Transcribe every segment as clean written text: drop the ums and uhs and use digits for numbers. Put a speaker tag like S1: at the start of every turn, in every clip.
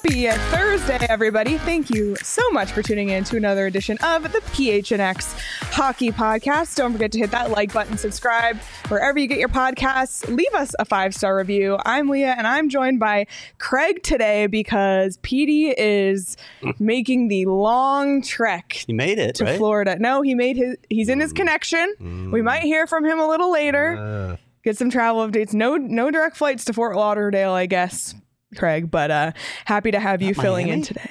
S1: Happy Thursday, everybody. Thank you so much for tuning in to another edition of the PHNX Hockey Podcast. Don't forget to hit that like button, subscribe, wherever you get your podcasts. Leave us a 5-star review. I'm Leah, and I'm joined by Craig today because Petey is making the long trek.
S2: He made it,
S1: to
S2: right?
S1: Florida. No, he's in his connection. We might hear from him a little later. Get some travel updates. No direct flights to Fort Lauderdale, I guess, Craig, but happy to have you filling in today.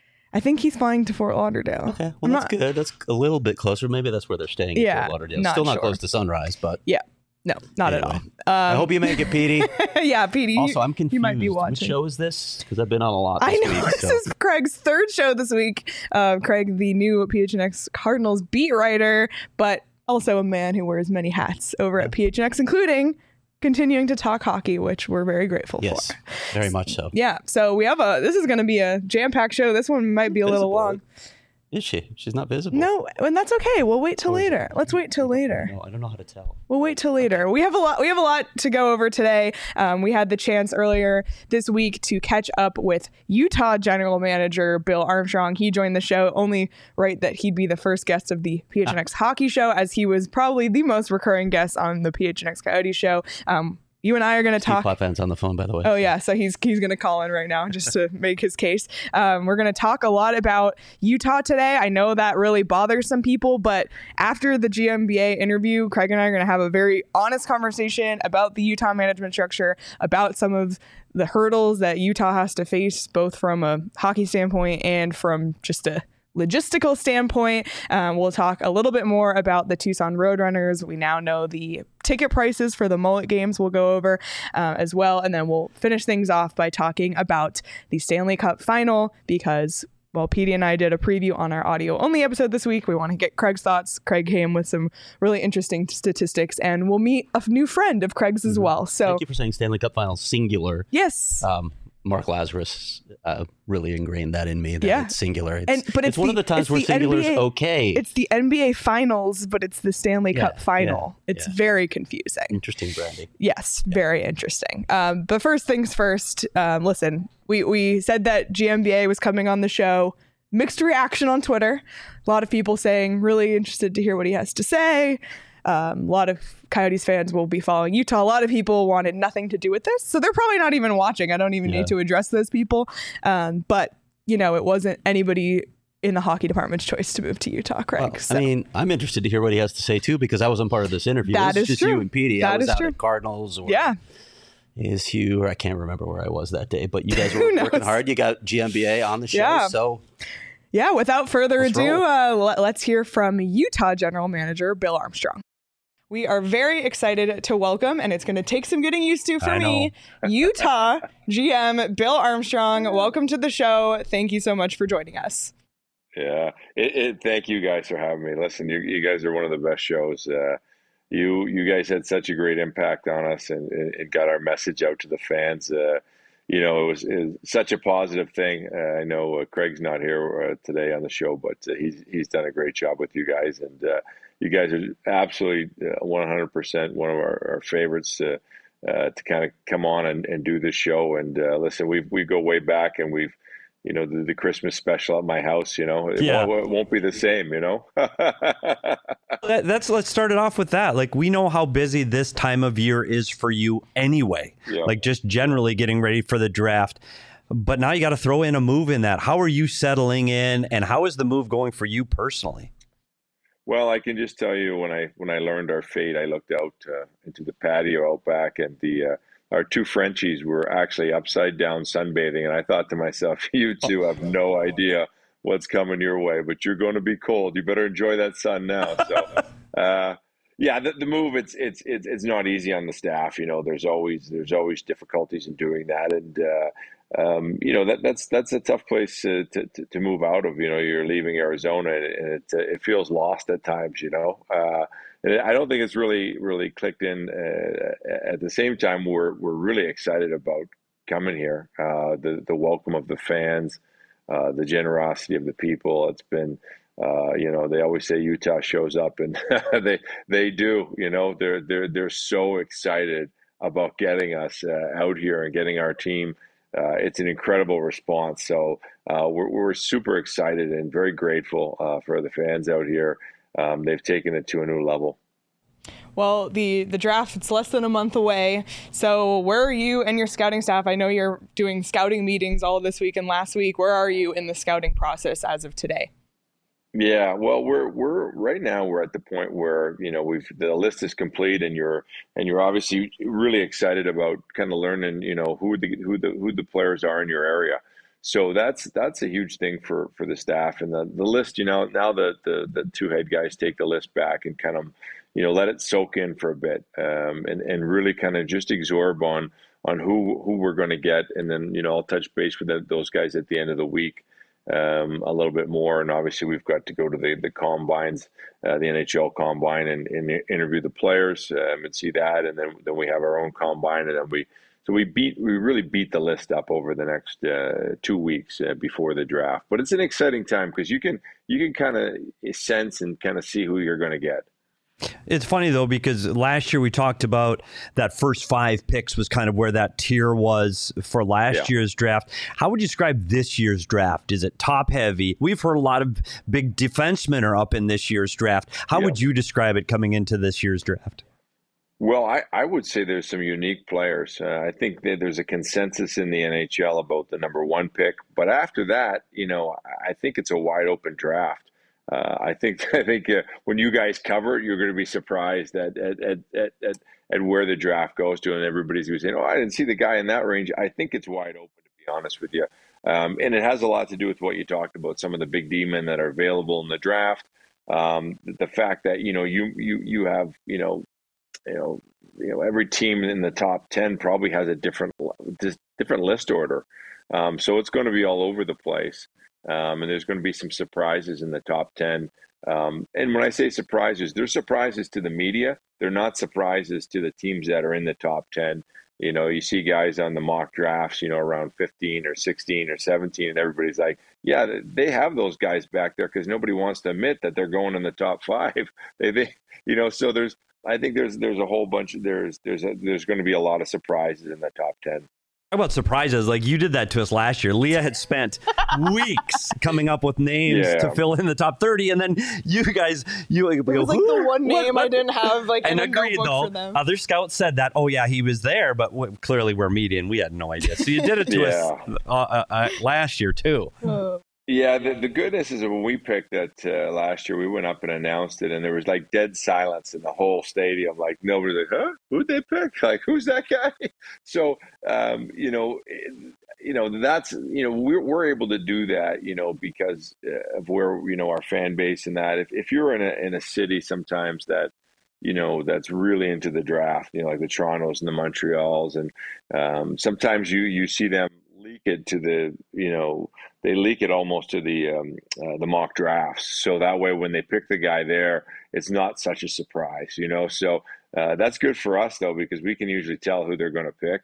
S1: I think he's flying to Fort Lauderdale.
S2: Okay, well, that's good. That's a little bit closer. Maybe that's where they're staying in Fort Lauderdale. Still not close to Sunrise, but...
S1: Yeah, no, not at all.
S2: I hope you make it, Petey.
S1: Yeah, Petey.
S2: Also, I'm confused.
S1: You might be watching.
S2: What show is this? Because I've been on a lot this week.
S1: This is Craig's third show this week. Craig, the new PHNX Cardinals beat writer, but also a man who wears many hats over at PHNX, including... continuing to talk hockey, which we're very grateful for.
S2: Very much so.
S1: Yeah, so we have this is going to be a jam-packed show. This one might be a little long.
S2: Is she? She's not visible.
S1: No, and that's okay. We'll wait till later. Let's wait till later.
S2: No, I don't know how to tell.
S1: We'll wait till later. We have a lot to go over today. We had the chance earlier this week to catch up with Utah General Manager Bill Armstrong. He joined the show. Only right that he'd be the first guest of the PHNX Hockey Show, as he was probably the most recurring guest on the PHNX Coyote Show. You and I are going to talk.
S2: Plotfan's on the phone, by the way.
S1: Oh, yeah. So he's going to call in right now just to make his case. We're going to talk a lot about Utah today. I know that really bothers some people, but after the GMBA interview, Craig and I are going to have a very honest conversation about the Utah management structure, about some of the hurdles that Utah has to face, both from a hockey standpoint and from just a logistical standpoint. We'll talk a little bit more about the Tucson Roadrunners. We now know the ticket prices for the Mullet games we'll go over as well. And then we'll finish things off by talking about the Stanley Cup final because, well, Petey and I did a preview on our audio only episode this week. We want to get Craig's thoughts. Craig came with some really interesting statistics, and we'll meet a new friend of Craig's as well. So
S2: thank you for saying Stanley Cup final singular.
S1: Yes.
S2: Mark Lazarus really ingrained that in me, that it's singular.
S1: But it's
S2: one of the times where singular is okay.
S1: It's the NBA Finals, but it's the Stanley Cup Final. It's very confusing.
S2: Interesting branding.
S1: Yes, very interesting. But first things first, listen, we said that GMBA was coming on the show. Mixed reaction on Twitter. A lot of people saying really interested to hear what he has to say. A lot of Coyotes fans will be following Utah. A lot of people wanted nothing to do with this, so they're probably not even watching. I don't even need to address those people. But, it wasn't anybody in the hockey department's choice to move to Utah, Craig.
S2: Well, so. I mean, I'm interested to hear what he has to say, too, because I wasn't part of this interview.
S1: That is
S2: just
S1: true.
S2: You and Petey. I was out at Cardinals. Or I can't remember where I was that day, but you guys were working hard. You got GMBA on the show, so...
S1: Yeah, without further ado, let's hear from Utah General Manager Bill Armstrong. We are very excited to welcome, and it's going to take some getting used to for me, Utah GM Bill Armstrong. Welcome to the show. Thank you so much for joining us.
S3: Yeah, thank you guys for having me. Listen, you guys are one of the best shows. You guys had such a great impact on us and got our message out to the fans. It was such a positive thing. I know Craig's not here today on the show, but he's done a great job with you guys. And you guys are absolutely 100% one of our favorites to kind of come on and do this show. And listen, we go way back, and we've, the Christmas special at my house, it won't be the same,
S4: Let's start it off with that. Like, we know how busy this time of year is for you anyway, like just generally getting ready for the draft. But now you got to throw in a move in that. How are you settling in, and how is the move going for you personally?
S3: Well, I can just tell you when I learned our fate, I looked out into the patio out back, and our two Frenchies were actually upside down sunbathing, and I thought to myself, you two have no idea what's coming your way, but you're going to be cold. You better enjoy that sun now. So, the move it's not easy on the staff. There's always difficulties in doing that, and that's a tough place to move out of. You're leaving Arizona, and it feels lost at times. And I don't think it's really clicked in. At the same time, we're really excited about coming here. The welcome of the fans, the generosity of the people. It's been, they always say Utah shows up, and they do. They're so excited about getting us out here and getting our team it's an incredible response. So we're super excited and very grateful for the fans out here. They've taken it to a new level.
S1: Well, the draft, it's less than a month away. So where are you and your scouting staff? I know you're doing scouting meetings all this week and last week. Where are you in the scouting process as of today?
S3: Yeah, well, we're right now we're at the point where, the list is complete, and you're obviously really excited about kind of learning, who the players are in your area. So that's a huge thing for the staff, and the list. Now the two head guys take the list back and kind of let it soak in for a bit, and really kind of just absorb on who we're going to get, and then I'll touch base with those guys at the end of the week a little bit more. And obviously we've got to go to the combines, the NHL combine, and interview the players and see that, and then we have our own combine, and then we really beat the list up over the next 2 weeks before the draft. But it's an exciting time because you can kind of sense and kind of see who you're going to get.
S4: It's funny, though, because last year we talked about that first 5 picks was kind of where that tier was for last year's draft. How would you describe this year's draft? Is it top heavy? We've heard a lot of big defensemen are up in this year's draft. How would you describe it coming into this year's draft?
S3: Well, I would say there's some unique players. I think that there's a consensus in the NHL about the number 1 pick. But after that, I think it's a wide open draft. I think when you guys cover it, you're going to be surprised at where the draft goes to, and everybody's going to say, "Oh, I didn't see the guy in that range." I think it's wide open, to be honest with you, and it has a lot to do with what you talked about. Some of the big D-men that are available in the draft, the fact that you have every team in the top 10 probably has a different list order, so it's going to be all over the place. And there's going to be some surprises in the top 10. And when I say surprises, they're surprises to the media. They're not surprises to the teams that are in the top 10. You see guys on the mock drafts, around 15 or 16 or 17, and everybody's like, yeah, they have those guys back there because nobody wants to admit that they're going in the top 5. So I think there's a whole bunch of, there's going to be a lot of surprises in the top 10.
S4: Talk about surprises. Like, you did that to us last year. Leah had spent weeks coming up with names to fill in the top 30, and then you guys,
S1: it was like the one name I didn't have
S4: and agreed, though. For them. Other scouts said that, oh yeah, he was there, but clearly we're media and we had no idea. So you did it to us last year too.
S3: Yeah, the goodness is that when we picked that last year, we went up and announced it, and there was like dead silence in the whole stadium. Like, nobody's like, "Huh? Who'd they pick? Like, who's that guy?" So, that's we're able to do that, because of where our fan base and that. If you're in a city sometimes that that's really into the draft, like the Torontos and the Montreals, and sometimes you see them leak it to they leak it almost to the mock drafts. So that way, when they pick the guy there, it's not such a surprise, So that's good for us, though, because we can usually tell who they're going to pick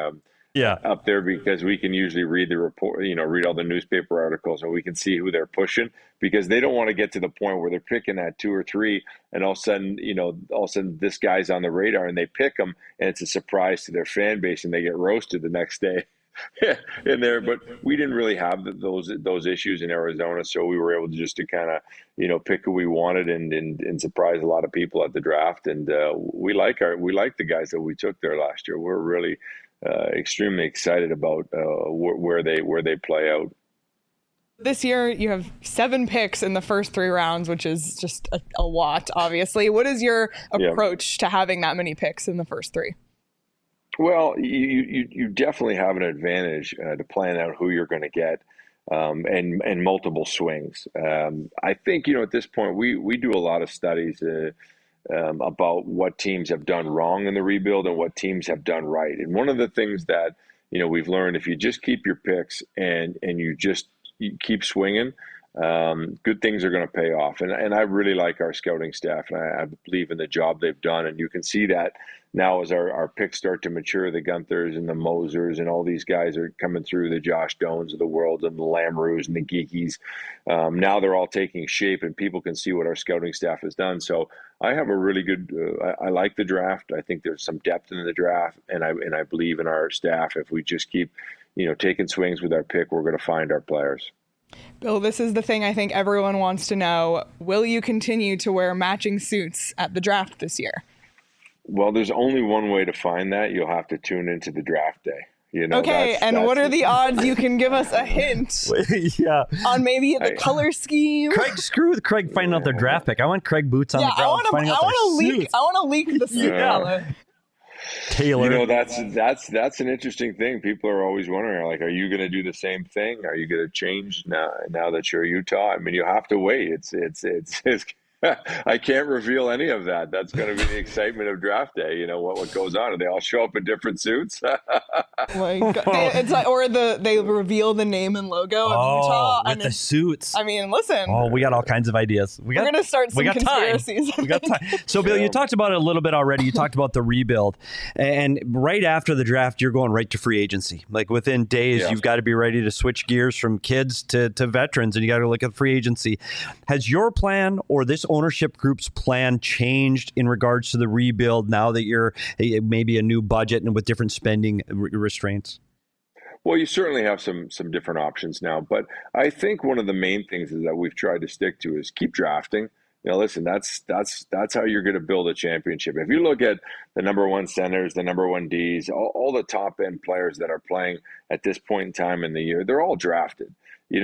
S3: up there, because we can usually read the report, read all the newspaper articles, and we can see who they're pushing, because they don't want to get to the point where they're picking at 2 or 3, and all of a sudden this guy's on the radar and they pick him, and it's a surprise to their fan base and they get roasted the next day. In there, but we didn't really have those issues in Arizona, so we were able to just to kind of pick who we wanted and surprise a lot of people at the draft, and we like the guys that we took there last year. We're really extremely excited about where they play out.
S1: This year you have 7 picks in the first 3 rounds, which is just a lot, obviously. What is your approach to having that many picks in the first 3?
S3: Well, you definitely have an advantage to plan out who you're going to get, and multiple swings. I think at this point we do a lot of studies about what teams have done wrong in the rebuild and what teams have done right. And one of the things that we've learned, if you just keep your picks and you keep swinging, good things are going to pay off. And I really like our scouting staff, and I believe in the job they've done. And you can see that now as our picks start to mature, the Gunthers and the Mosers and all these guys are coming through, the Josh Doans of the world and the Lamroos and the Geekies. Now they're all taking shape, and people can see what our scouting staff has done. So I have a really good, I like the draft. I think there's some depth in the draft, and I believe in our staff. If we just keep taking swings with our pick, we're going to find our players.
S1: Bill, this is the thing I think everyone wants to know. Will you continue to wear matching suits at the draft this year?
S3: Well, there's only one way to find that. You'll have to tune into the draft day.
S1: Okay, and what are the odds you can give us a hint on maybe the color scheme?
S4: Craig, screw with Craig finding out their draft pick. I want Craig boots on the ground finding out their suits.
S1: I want to leak the suit color.
S4: Taylor.
S3: That's an interesting thing. People are always wondering, like, are you going to do the same thing? Are you going to change now that you're Utah? I mean, you have to wait. It's I can't reveal any of that. That's going to be the excitement of draft day. What goes on? Do they all show up in different suits?
S1: Like, it's like, or they reveal the name and logo of Utah
S4: with the suits.
S1: I mean, listen.
S4: Oh, we got all kinds of ideas. We're going
S1: to start some conspiracies.
S4: We got time. So, Bill, you talked about it a little bit already. You talked about the rebuild, and right after the draft, you're going right to free agency. Like within days, you've got to be ready to switch gears from kids to veterans, and you got to look at free agency. Has your plan or this ownership group's plan changed in regards to the rebuild now that you're maybe a new budget and with different spending restraints?
S3: Well, you certainly have some different options now, but I think one of the main things is that we've tried to stick to is keep drafting. Listen, that's how you're going to build a championship. If you look at the number one centers, the number one Ds, all the top end players that are playing at this point in time in the year, they're all drafted.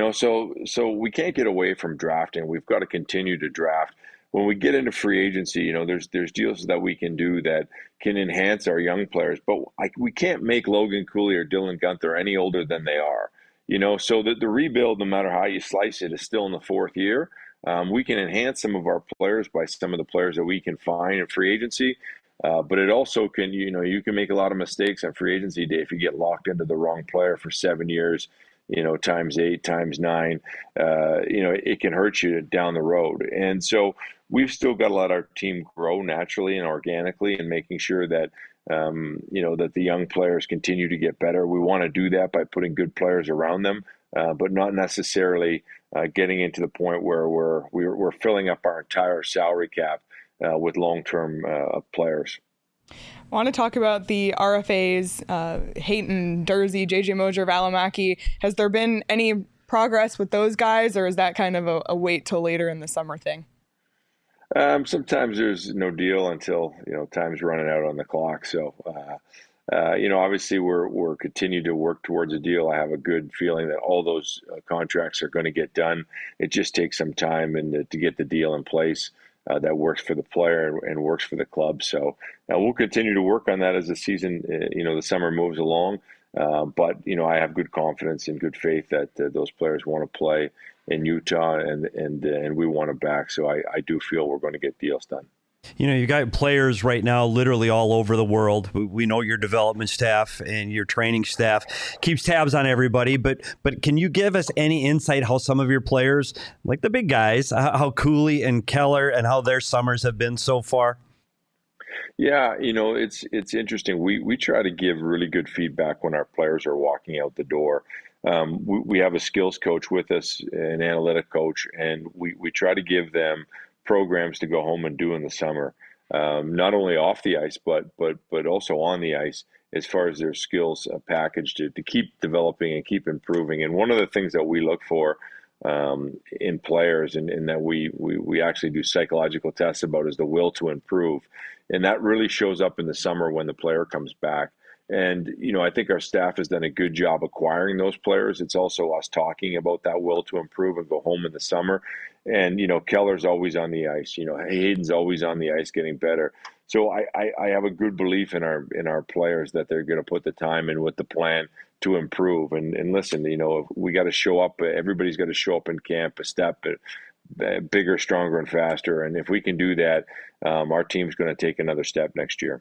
S3: So we can't get away from drafting. We've got to continue to draft. When we get into free agency, there's deals that we can do that can enhance our young players, but we can't make Logan Cooley or Dylan Guenther any older than they are. So the rebuild, no matter how you slice it, is still in the fourth year. We can enhance some of our players by some of the players that we can find in free agency. But it also can, you can make a lot of mistakes on free agency day if you get locked into the wrong player for 7 years. Times 8, times 9, it can hurt you down the road. And so we've still got to let our team grow naturally and organically and making sure that, that the young players continue to get better. We want to do that by putting good players around them, but not necessarily getting into the point where we're filling up our entire salary cap with long-term players.
S1: I want to talk about the RFAs, Hayton, Dursey, JJ Moser, Valimaki. Has there been any progress with those guys, or is that kind of a wait till later in the summer thing?
S3: Sometimes there's no deal until, time's running out on the clock. So, obviously we're continue to work towards a deal. I have a good feeling that all those contracts are going to get done. It just takes some time and to get the deal in place. That works for the player and works for the club. So we'll continue to work on that as the season, the summer moves along. But I have good confidence and good faith that those players want to play in Utah and we want them back. So I do feel we're going to get deals done.
S4: You got players right now literally all over the world. We know your development staff and your training staff keeps tabs on everybody, but can you give us any insight how some of your players, like the big guys, how Cooley and Keller and how their summers have been so far?
S3: Yeah, it's interesting. We try to give really good feedback when our players are walking out the door. We have a skills coach with us, an analytic coach, and we try to give them programs to go home and do in the summer, not only off the ice, but also on the ice as far as their skills package to keep developing and keep improving. And one of the things that we look for in players and that we actually do psychological tests about is the will to improve. And that really shows up in the summer when the player comes back. And, I think our staff has done a good job acquiring those players. It's also us talking about that will to improve and go home in the summer. And, Keller's always on the ice. Hayden's always on the ice getting better. So I have a good belief in our players that they're going to put the time in with the plan to improve. And listen, we got to show up. Everybody's got to show up in camp a step bigger, stronger, and faster. And if we can do that, our team's going to take another step next year.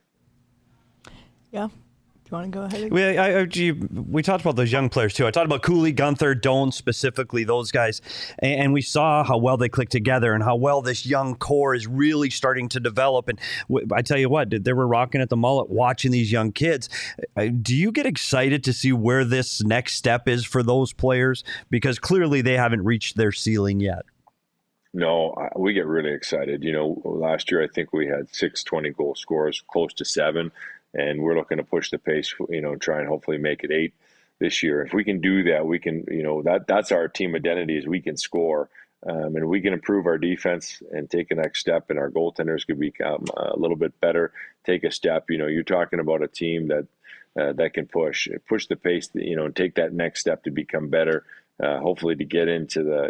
S1: Yeah. Do you want to go ahead?
S4: We talked about those young players, too. I talked about Cooley, Guenther, Doan, specifically, those guys. And we saw how well they click together and how well this young core is really starting to develop. And I tell you what, they were rocking at the mullet watching these young kids. Do you get excited to see where this next step is for those players? Because clearly they haven't reached their ceiling yet.
S3: No, we get really excited. Last year I think we had 6 20-goal scorers, close to 7. And we're looking to push the pace, try and hopefully make it 8 this year. If we can do that, we can, that's our team identity, is we can score. And we can improve our defense and take a next step, and our goaltenders could become a little bit better, take a step. You're talking about a team that can push the pace, and take that next step to become better, hopefully to get into the,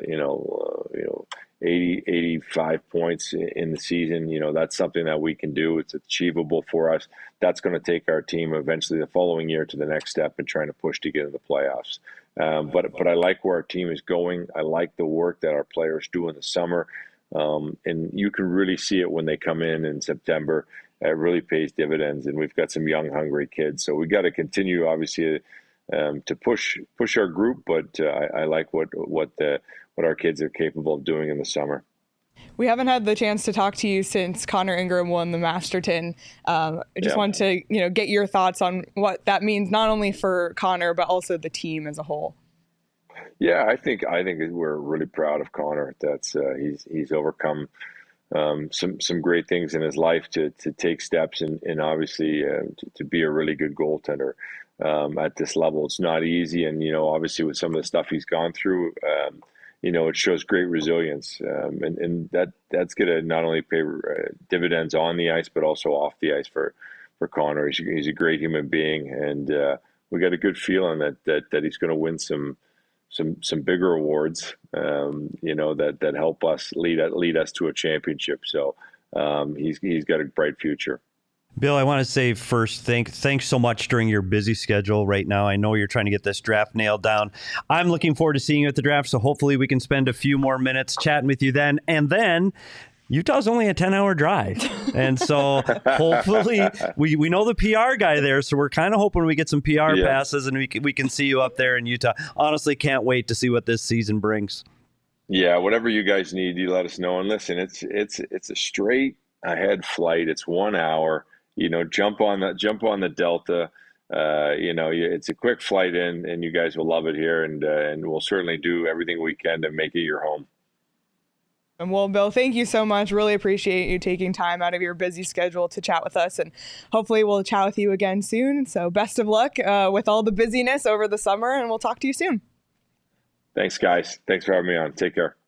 S3: 80, 85 points in the season. That's something that we can do. It's achievable for us. That's going to take our team eventually the following year to the next step and trying to push to get in the playoffs. But I like where our team is going. I like the work that our players do in the summer. And you can really see it when they come in September. It really pays dividends, and we've got some young, hungry kids. So we got to continue, obviously, to push our group. But I like what our kids are capable of doing in the summer.
S1: We haven't had the chance to talk to you since Connor Ingram won the Masterton. I just wanted to, get your thoughts on what that means, not only for Connor, but also the team as a whole.
S3: Yeah, I think we're really proud of Connor. That's he's overcome some great things in his life to take steps and obviously to be a really good goaltender at this level. It's not easy, and obviously with some of the stuff he's gone through. It shows great resilience, and that's going to not only pay dividends on the ice, but also off the ice for Connor. He's a great human being, and we got a good feeling that he's going to win some bigger awards, that help us lead us to a championship. So he's got a bright future.
S4: Bill, I want to say first, thanks so much during your busy schedule right now. I know you're trying to get this draft nailed down. I'm looking forward to seeing you at the draft, so hopefully we can spend a few more minutes chatting with you then. And then Utah's only a 10-hour drive. And so hopefully we know the PR guy there, so we're kind of hoping we get some PR passes and we can see you up there in Utah. Honestly, can't wait to see what this season brings.
S3: Yeah, whatever you guys need, you let us know. And listen, it's a straight ahead flight. It's 1 hour. Jump on the Delta. It's a quick flight in, and you guys will love it here. And we'll certainly do everything we can to make it your home.
S1: And well, Bill, thank you so much. Really appreciate you taking time out of your busy schedule to chat with us, and hopefully we'll chat with you again soon. So best of luck with all the busyness over the summer, and we'll talk to you soon.
S3: Thanks, guys. Thanks for having me on. Take care.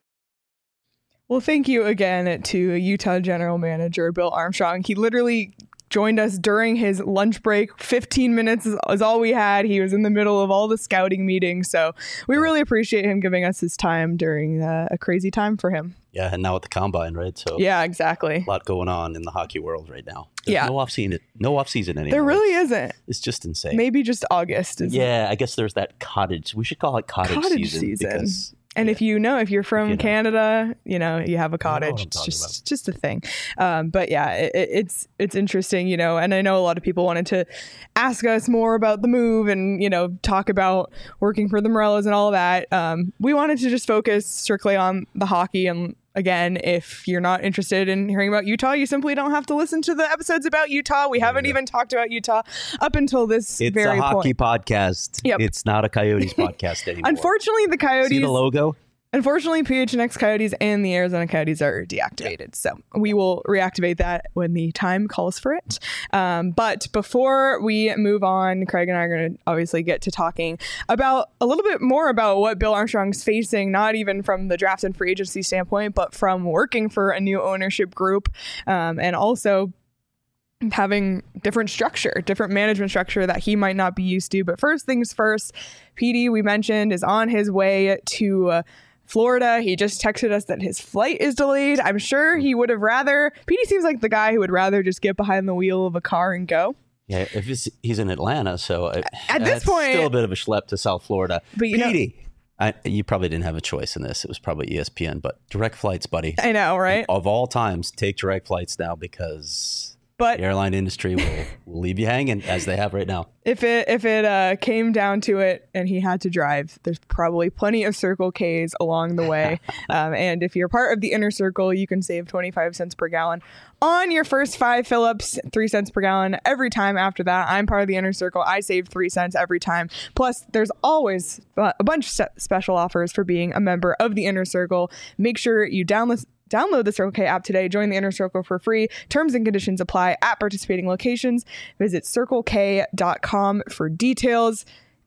S1: Well, thank you again to Utah General Manager Bill Armstrong. He literally joined us during his lunch break. 15 minutes is all we had. He was in the middle of all the scouting meetings. So we really appreciate him giving us his time during a crazy time for him.
S2: Yeah, and now at the Combine, right? So
S1: yeah, exactly.
S2: A lot going on in the hockey world right now. There's no off season anymore.
S1: There really isn't.
S2: It's just insane.
S1: Maybe just August.
S2: I guess there's that cottage. We should call it cottage season. Because,
S1: and if you're from Canada, you have a cottage. It's just a thing. But yeah, it's interesting, and I know a lot of people wanted to ask us more about the move and, talk about working for the Morellas and all of that. We wanted to just focus strictly on the hockey. And again, if you're not interested in hearing about Utah, you simply don't have to listen to the episodes about Utah. We haven't even talked about Utah up until this very point.
S2: It's a hockey podcast. Yep. It's not a Coyotes podcast anymore.
S1: Unfortunately, the Coyotes...
S2: See the logo?
S1: Unfortunately, PHNX Coyotes and the Arizona Coyotes are deactivated. So we will reactivate that when the time calls for it. But before we move on, Craig and I are going to obviously get to talking about a little bit more about what Bill Armstrong's facing, not even from the draft and free agency standpoint, but from working for a new ownership group, and also having different management structure that he might not be used to. But first things first, PD, we mentioned, is on his way to Florida. He just texted us that his flight is delayed. I'm sure he would have rather. PD seems like the guy who would rather just get behind the wheel of a car and go.
S2: Yeah, if he's in Atlanta, so
S1: at this point,
S2: still a bit of a schlep to South Florida. But PD, you probably didn't have a choice in this. It was probably ESPN, but direct flights, buddy.
S1: I know, right?
S2: Of all times, take direct flights now because the airline industry will leave you hanging, as they have right now.
S1: If it came down to it and he had to drive, there's probably plenty of Circle Ks along the way. And if you're part of the Inner Circle, you can save 25 cents per gallon on your first 5 fill-ups, 3 cents per gallon every time after that. I'm part of the Inner Circle. I save 3 cents every time. Plus, there's always a bunch of special offers for being a member of the Inner Circle. Make sure you download the Circle K app today. Join the Inner Circle for free. Terms and conditions apply at participating locations. Visit circlek.com for details.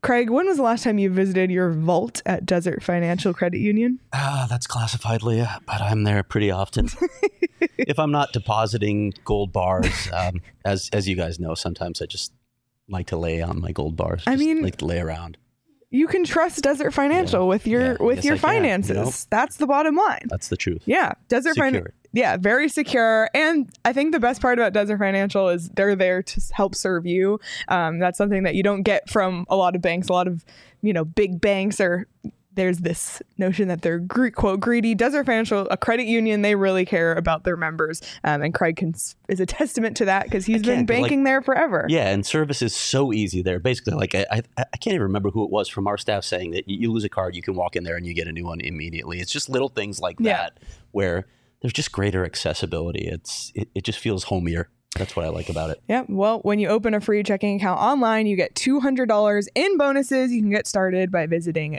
S1: Craig, when was the last time you visited your vault at Desert Financial Credit Union?
S2: That's classified, Leah, but I'm there pretty often. If I'm not depositing gold bars, as you guys know, sometimes I just like to lay on my gold bars. Like to lay around.
S1: You can trust Desert Financial with your finances. You know? That's the bottom line.
S2: That's the truth.
S1: Yeah, Desert Financial. Yeah, very secure. And I think the best part about Desert Financial is they're there to help serve you. That's something that you don't get from a lot of banks. A lot of, big banks there's this notion that they're quote greedy. Desert Financial, a credit union, they really care about their members. And Craig is a testament to that because he's been banking there forever.
S2: Yeah, and service is so easy there. Basically, I can't even remember who it was from our staff saying that you lose a card, you can walk in there and you get a new one immediately. It's just little things like that where there's just greater accessibility. It just feels homier. That's what I like about it.
S1: Yeah. Well, when you open a free checking account online, you get $200 in bonuses. You can get started by visiting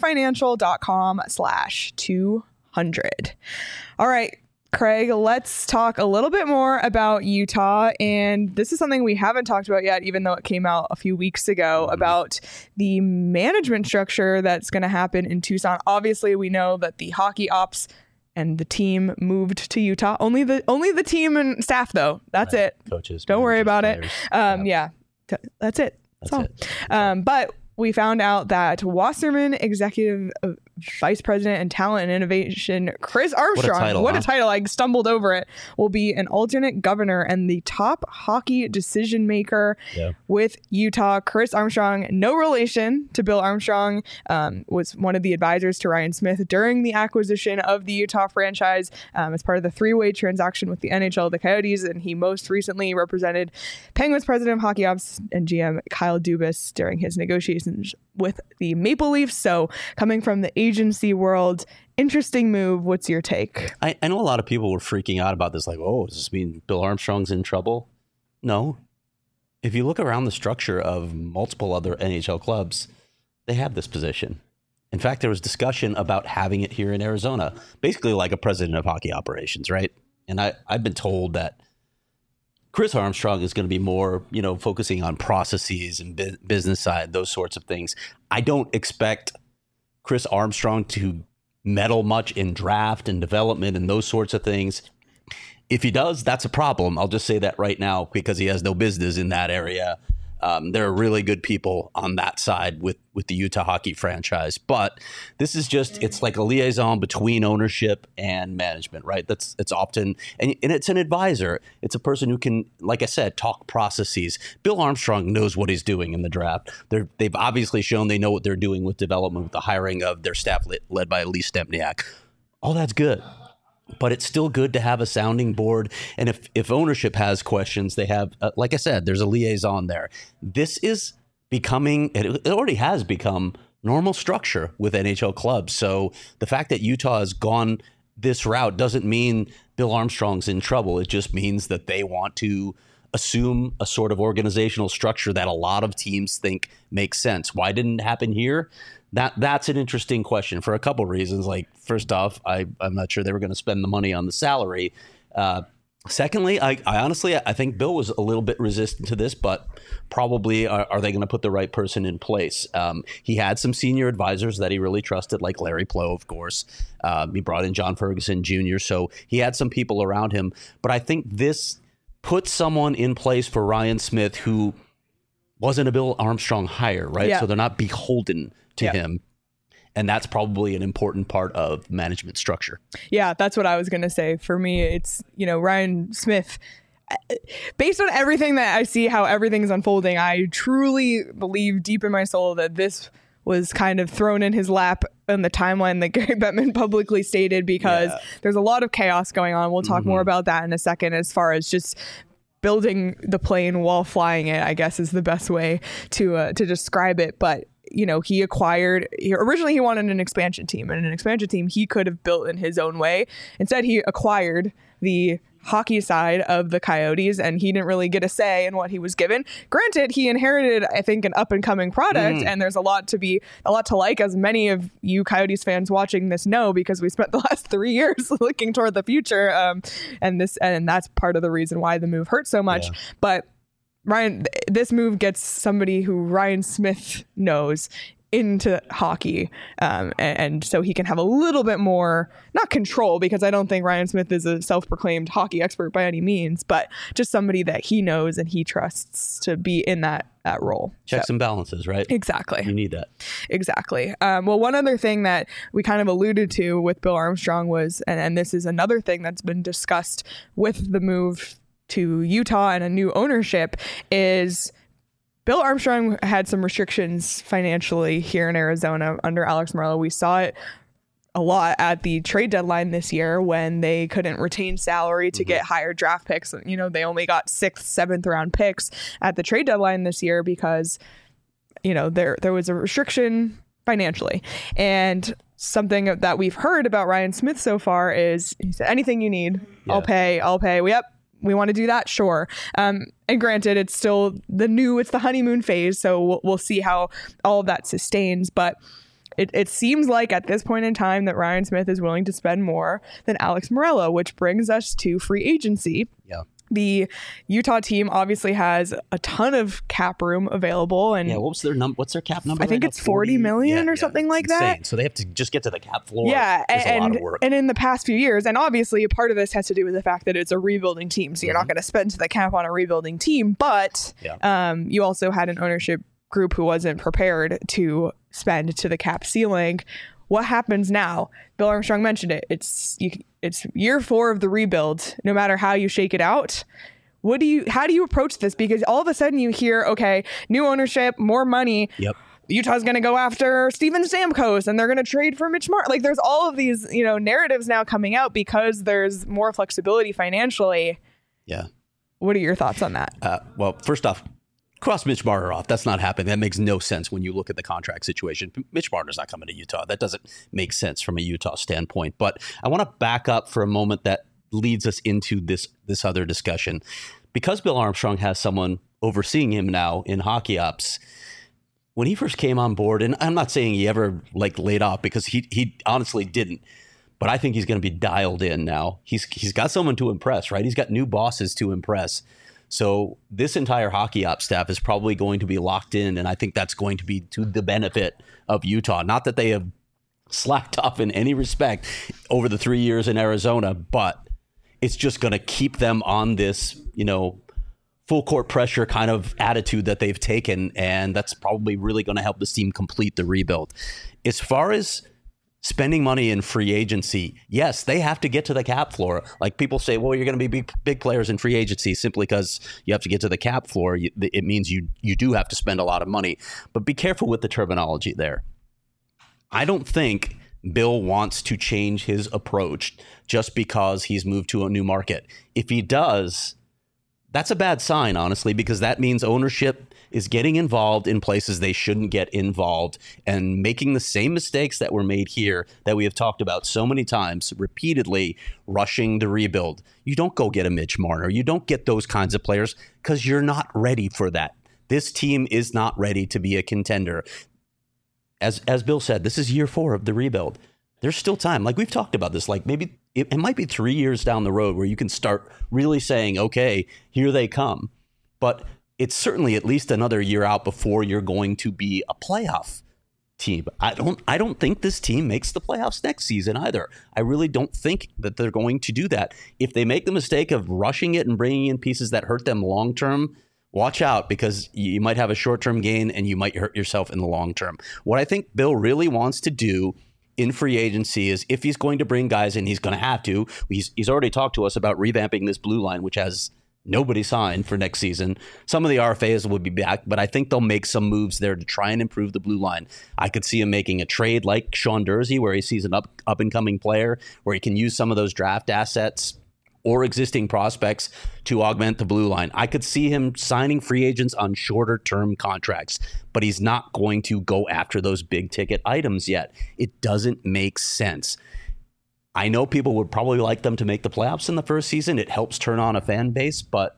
S1: desertfinancial.com/200. All right, Craig, let's talk a little bit more about Utah. And this is something we haven't talked about yet, even though it came out a few weeks ago, about the management structure that's going to happen in Tucson. Obviously, we know that the hockey ops and the team moved to Utah. Only the team and staff, though. That's it.
S2: Coaches.
S1: Don't worry about it. That's it. That's all. But we found out that Wasserman Executive Vice President and Talent and Innovation Chris Armstrong, what a title, I stumbled over it, will be an alternate governor and the top hockey decision maker with Utah. Chris Armstrong, no relation to Bill Armstrong, was one of the advisors to Ryan Smith during the acquisition of the Utah franchise as part of the three-way transaction with the NHL, the Coyotes, and he most recently represented Penguins president of hockey ops and GM Kyle Dubas during his negotiations with the Maple Leafs. So coming from the agency world, interesting move. What's your take?
S2: I know a lot of people were freaking out about this, like, oh, does this mean Bill Armstrong's in trouble? No. If you look around the structure of multiple other NHL clubs, they have this position. In fact, there was discussion about having it here in Arizona, basically like a president of hockey operations, right? And I've been told that Chris Armstrong is going to be more, focusing on processes and business side, those sorts of things. I don't expect Chris Armstrong to meddle much in draft and development and those sorts of things. If he does, that's a problem. I'll just say that right now because he has no business in that area. There are really good people on that side with the Utah hockey franchise. But this is it's like a liaison between ownership and management, right? It's often, and it's an advisor. It's a person who can, like I said, talk processes. Bill Armstrong knows what he's doing in the draft. They've obviously shown they know what they're doing with development, with the hiring of their staff led by Lee Stempniak. All that's good. But it's still good to have a sounding board. And if ownership has questions, they have, like I said, there's a liaison there. This is becoming, it already has become normal structure with NHL clubs. So the fact that Utah has gone this route doesn't mean Bill Armstrong's in trouble. It just means that they want to assume a sort of organizational structure that a lot of teams think makes sense. Why didn't it happen here? That's an interesting question for a couple reasons. Like, first off, I'm not sure they were going to spend the money on the salary. Secondly, I honestly think Bill was a little bit resistant to this, but probably are they going to put the right person in place? He had some senior advisors that he really trusted, like Larry Plow, of course. He brought in John Ferguson Jr., so he had some people around him. But I think this puts someone in place for Ryan Smith who wasn't a Bill Armstrong hire, right? Yeah. So they're not beholden to him. And that's probably an important part of management structure.
S1: Yeah, that's what I was going to say. For me, it's, Ryan Smith, based on everything that I see, how everything's unfolding, I truly believe deep in my soul that this was kind of thrown in his lap in the timeline that Gary Bettman publicly stated, because there's a lot of chaos going on. We'll talk more about that in a second, as far as just building the plane while flying it, I guess is the best way to describe it. But originally he wanted an expansion team, and an expansion team he could have built in his own way. Instead, he acquired the hockey side of the Coyotes, and he didn't really get a say in what he was given. Granted, he inherited, I think, an up and coming product, and there's a lot to like, as many of you Coyotes fans watching this know, because we spent the last 3 years looking toward the future, and that's part of the reason why the move hurt so much. But this move gets somebody who Ryan Smith knows into hockey, and so he can have a little bit more, not control, because I don't think Ryan Smith is a self-proclaimed hockey expert by any means, but just somebody that he knows and he trusts to be in that role.
S2: Checks and balances, right?
S1: Exactly.
S2: You need that.
S1: Exactly. Well, one other thing that we kind of alluded to with Bill Armstrong was, and this is another thing that's been discussed with the move to Utah and a new ownership, is Bill Armstrong had some restrictions financially here in Arizona under Alex Meruelo. We saw it a lot at the trade deadline this year when they couldn't retain salary to get higher draft picks. You know, they only got 6th, 7th round picks at the trade deadline this year because, you know, there was a restriction financially. And something that we've heard about Ryan Smith so far is he said, anything you need, I'll pay. Yep. We want to do that, sure. And granted, it's still it's the honeymoon phase, so we'll see how all of that sustains. But it seems like at this point in time that Ryan Smith is willing to spend more than Alex Meruelo, which brings us to free agency.
S2: Yeah.
S1: The Utah team obviously has a ton of cap room available, and
S2: what's their cap number?
S1: I think it's 40 million or something like that.
S2: So they have to just get to the cap floor.
S1: Yeah,
S2: a lot of work.
S1: And in the past few years, and obviously a part of this has to do with the fact that it's a rebuilding team, so you're not going to spend to the cap on a rebuilding team. But you also had an ownership group who wasn't prepared to spend to the cap ceiling. What happens now? Bill Armstrong mentioned it. It's year 4 of the rebuild. No matter how you shake it out, how do you approach this? Because all of a sudden you hear, okay, new ownership, more money.
S2: Yep.
S1: Utah's going to go after Steven Stamkos and they're going to trade for Mitch Martin. Like, there's all of these, narratives now coming out because there's more flexibility financially.
S2: Yeah.
S1: What are your thoughts on that?
S2: Well, first off, cross Mitch Marner off. That's not happening. That makes no sense when you look at the contract situation. Mitch Marner's not coming to Utah. That doesn't make sense from a Utah standpoint. But I want to back up for a moment that leads us into this other discussion. Because Bill Armstrong has someone overseeing him now in hockey ops, when he first came on board, and I'm not saying he ever laid off, because he honestly didn't, but I think he's going to be dialed in now. He's got someone to impress, right? He's got new bosses to impress. So this entire hockey ops staff is probably going to be locked in, and I think that's going to be to the benefit of Utah. Not that they have slacked off in any respect over the 3 years in Arizona, but it's just going to keep them on this, full court pressure kind of attitude that they've taken, and that's probably really going to help this team complete the rebuild. As far as spending money in free agency, yes, they have to get to the cap floor. Like, people say, well, you're going to be big players in free agency simply because you have to get to the cap floor. It means you do have to spend a lot of money. But be careful with the terminology there. I don't think Bill wants to change his approach just because he's moved to a new market. If he does, that's a bad sign, honestly, because that means ownership is getting involved in places they shouldn't get involved and making the same mistakes that were made here that we have talked about so many times, repeatedly, rushing the rebuild. You don't go get a Mitch Marner. You don't get those kinds of players because you're not ready for that. This team is not ready to be a contender. As Bill said, this is year 4 of the rebuild. There's still time. Like, we've talked about this, like maybe it might be 3 years down the road where you can start really saying, okay, here they come. But it's certainly at least another year out before you're going to be a playoff team. I don't think this team makes the playoffs next season either. I really don't think that they're going to do that. If they make the mistake of rushing it and bringing in pieces that hurt them long term, watch out, because you might have a short-term gain and you might hurt yourself in the long term. What I think Bill really wants to do in free agency is, if he's going to bring guys in, he's going to have to. He's already talked to us about revamping this blue line, which has nobody signed for next season. Some of the RFAs will be back, but I think they'll make some moves there to try and improve the blue line. I could see him making a trade like Sean Durzi, where he sees an up-and-coming player, where he can use some of those draft assets or existing prospects to augment the blue line. I could see him signing free agents on shorter term contracts, but he's not going to go after those big ticket items yet. It doesn't make sense. I know people would probably like them to make the playoffs in the first season. It helps turn on a fan base, but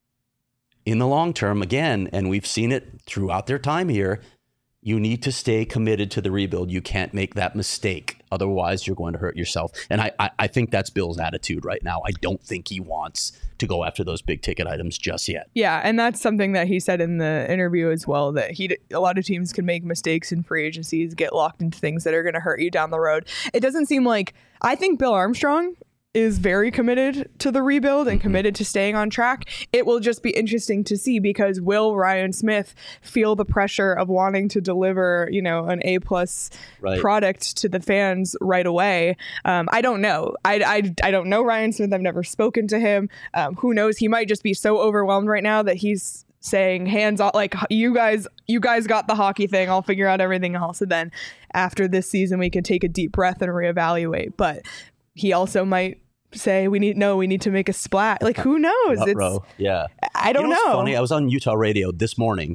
S2: in the long term, again, and we've seen it throughout their time here, you need to stay committed to the rebuild. You can't make that mistake Otherwise, you're going to hurt yourself. And I think that's Bill's attitude right now. I don't think he wants to go after those big ticket items just yet.
S1: Yeah, and that's something that he said in the interview as well, that a lot of teams can make mistakes in free agencies, get locked into things that are going to hurt you down the road. It doesn't seem like, I think Bill Armstrong is very committed to the rebuild and committed to staying on track. It will just be interesting to see, because will Ryan Smith feel the pressure of wanting to deliver, an A+ product to the fans right away? I don't know. I don't know Ryan Smith. I've never spoken to him. Who knows? He might just be so overwhelmed right now that he's saying hands off, like, you guys got the hockey thing, I'll figure out everything else, and then after this season we can take a deep breath and reevaluate. But he also might say we need to make a splat. Like, who knows?
S2: Yeah.
S1: I don't know.
S2: What's funny? I was on Utah radio this morning.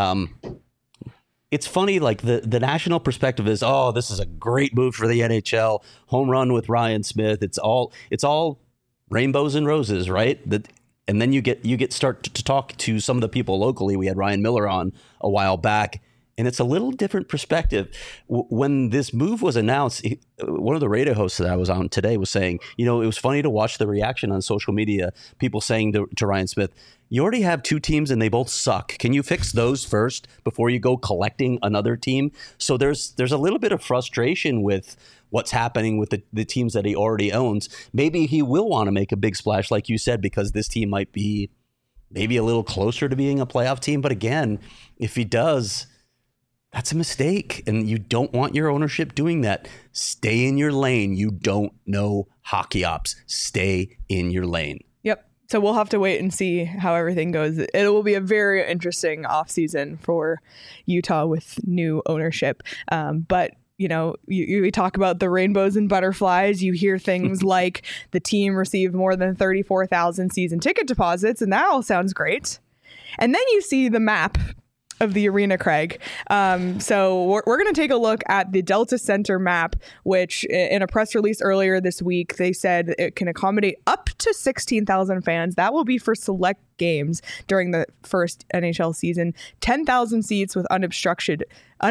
S2: It's funny, like the national perspective is, oh, this is a great move for the NHL. Home run with Ryan Smith. It's all rainbows and roses, right? And then you get start to talk to some of the people locally. We had Ryan Miller on a while back, and it's a little different perspective. When this move was announced, one of the radio hosts that I was on today was saying, it was funny to watch the reaction on social media, people saying to Ryan Smith, you already have 2 teams and they both suck. Can you fix those first before you go collecting another team? So there's a little bit of frustration with what's happening with the teams that he already owns. Maybe he will want to make a big splash, like you said, because this team might be maybe a little closer to being a playoff team. But again, if he does, that's a mistake, and you don't want your ownership doing that. Stay in your lane. You don't know hockey ops. Stay in your lane. Yep.
S1: So we'll have to wait and see how everything goes. It will be a very interesting offseason for Utah with new ownership. But we talk about the rainbows and butterflies. You hear things like the team received more than 34,000 season ticket deposits, and that all sounds great. And then you see the map of the arena, Craig. So we're going to take a look at the Delta Center map, which in a press release earlier this week, they said it can accommodate up to 16,000 fans. That will be for select games during the first NHL season. 10,000 seats with unobstructed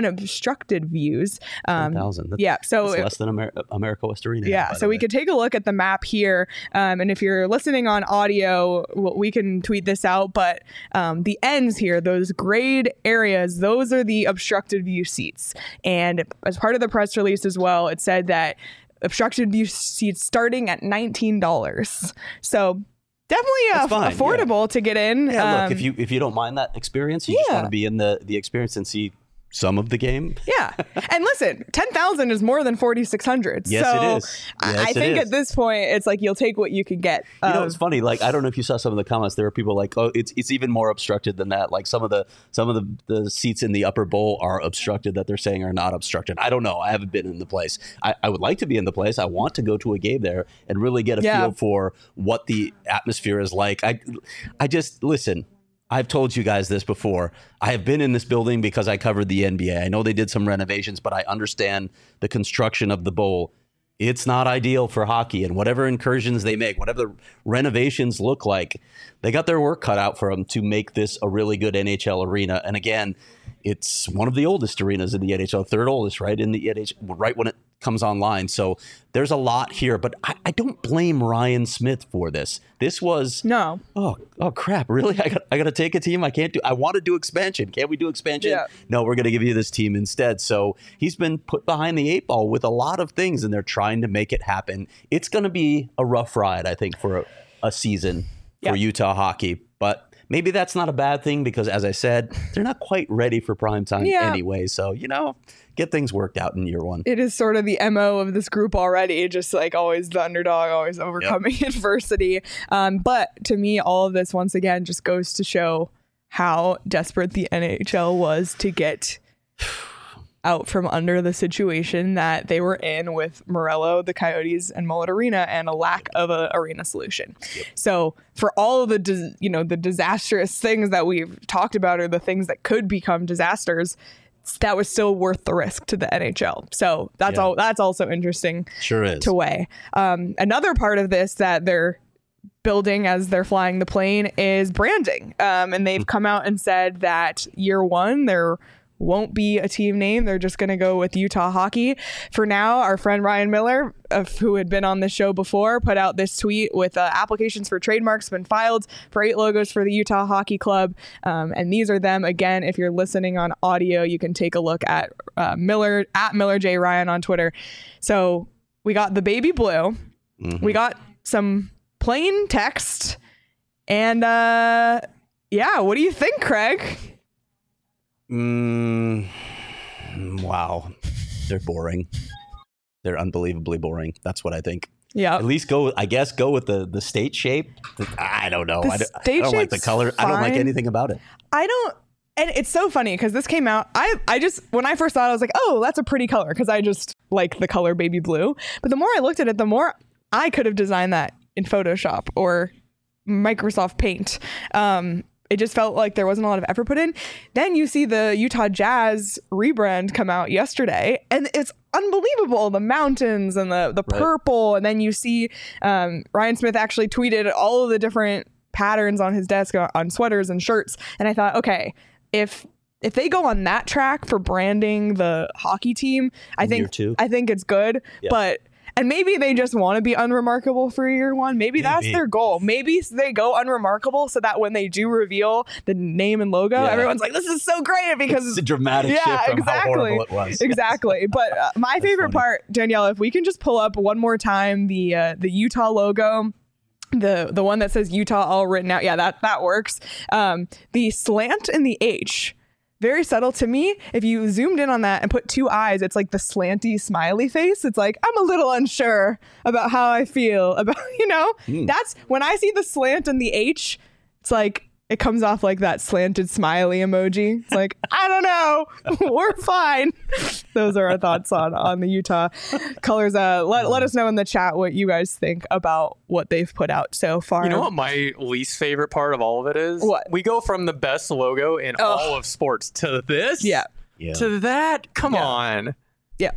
S1: views.
S2: 10,000.
S1: So
S2: that's less than America West Arena.
S1: Yeah. So we could take a look at the map here. And if you're listening on audio, we can tweet this out. But the ends here, those grayed areas, those are the obstructed view seats. And as part of the press release as well, it said that obstructed view seats starting at $19. So definitely affordable to get in.
S2: Yeah, look, if you don't mind that experience, you just want to be in the experience and see some of the game.
S1: Yeah. And listen, 10,000 is more than 4,600.
S2: Yes,
S1: so
S2: it is.
S1: I think at this point, it's like you'll take what you can get.
S2: It's funny. Like, I don't know if you saw some of the comments. There were people like, oh, it's even more obstructed than that. Like some of the seats in the upper bowl are obstructed that they're saying are not obstructed. I don't know. I haven't been in the place. I would like to be in the place. I want to go to a game there and really get a feel for what the atmosphere is like. I just, listen, I've told you guys this before. I have been in this building because I covered the NBA. I know they did some renovations, but I understand the construction of the bowl. It's not ideal for hockey, and whatever incursions they make, whatever the renovations look like, they got their work cut out for them to make this a really good NHL arena. And again, it's one of the oldest arenas in the NHL, third oldest, right, in the NHL, right when it comes online. So there's a lot here, but I don't blame Ryan Smith for this. This was oh crap, really? I got to take a team. I want to do expansion. Can't we do expansion? Yeah. No, we're going to give you this team instead. So he's been put behind the 8 ball with a lot of things, and they're trying to make it happen. It's going to be a rough ride, I think, for a season for Utah hockey, but maybe that's not a bad thing because, as I said, they're not quite ready for prime time anyway. So, get things worked out in year one.
S1: It is sort of the MO of this group already, just like always the underdog, always overcoming adversity. But to me, all of this, once again, just goes to show how desperate the NHL was to get out from under the situation that they were in with Morello, the Coyotes, and Mullet Arena, and a lack of an arena solution. Yep. So for all of the disastrous things that we've talked about, or the things that could become disasters, that was still worth the risk to the NHL. So that's also interesting.
S2: Sure is.
S1: To weigh. Another part of this that they're building as they're flying the plane is branding. And they've come out and said that year one, they're won't be a team name. They're just going to go with Utah Hockey. For now, our friend Ryan Miller, who had been on the show before, put out this tweet with applications for trademarks been filed for 8 logos for the Utah Hockey Club. And these are them. Again, if you're listening on audio, you can take a look at Miller J. Ryan on Twitter. So we got the baby blue. Mm-hmm. We got some plain text. And yeah, what do you think, Craig?
S2: Wow. They're boring. They're unbelievably boring. That's what I think.
S1: Yeah.
S2: At least go with the state shape. I don't know. I don't like the color.
S1: Fine.
S2: I don't like anything about it.
S1: And it's so funny because this came out. I just, when I first saw it, I was like, oh, that's a pretty color, because I just like the color baby blue. But the more I looked at it, the more I could have designed that in Photoshop or Microsoft Paint. It just felt like there wasn't a lot of effort put in. Then you see the Utah Jazz rebrand come out yesterday, and it's unbelievable. The mountains and the purple. And then you see Ryan Smith actually tweeted all of the different patterns on his desk on sweaters and shirts. And I thought, okay, if they go on that track for branding the hockey team, I think it's good. Yeah. And maybe they just want to be unremarkable for year one. Maybe that's their goal. Maybe they go unremarkable so that when they do reveal the name and logo, everyone's like, this is so great, because
S2: it's a dramatic shift from how horrible it was.
S1: Exactly. But my favorite part, Danielle, if we can just pull up one more time the Utah logo, the one that says Utah all written out. Yeah, that works. The slant and the H. Very subtle to me. If you zoomed in on that and put 2 eyes, it's like the slanty smiley face. It's like, I'm a little unsure about how I feel about, that's when I see the slant and the H, it's like, it comes off like that slanted smiley emoji. It's like, I don't know. We're fine. Those are our thoughts on the Utah colors. Let us know in the chat what you guys think about what they've put out so far.
S5: You know what my least favorite part of all of it is?
S1: What?
S5: We go from the best logo in all of sports to this?
S1: Yeah.
S5: To that? Come on.
S1: Yeah.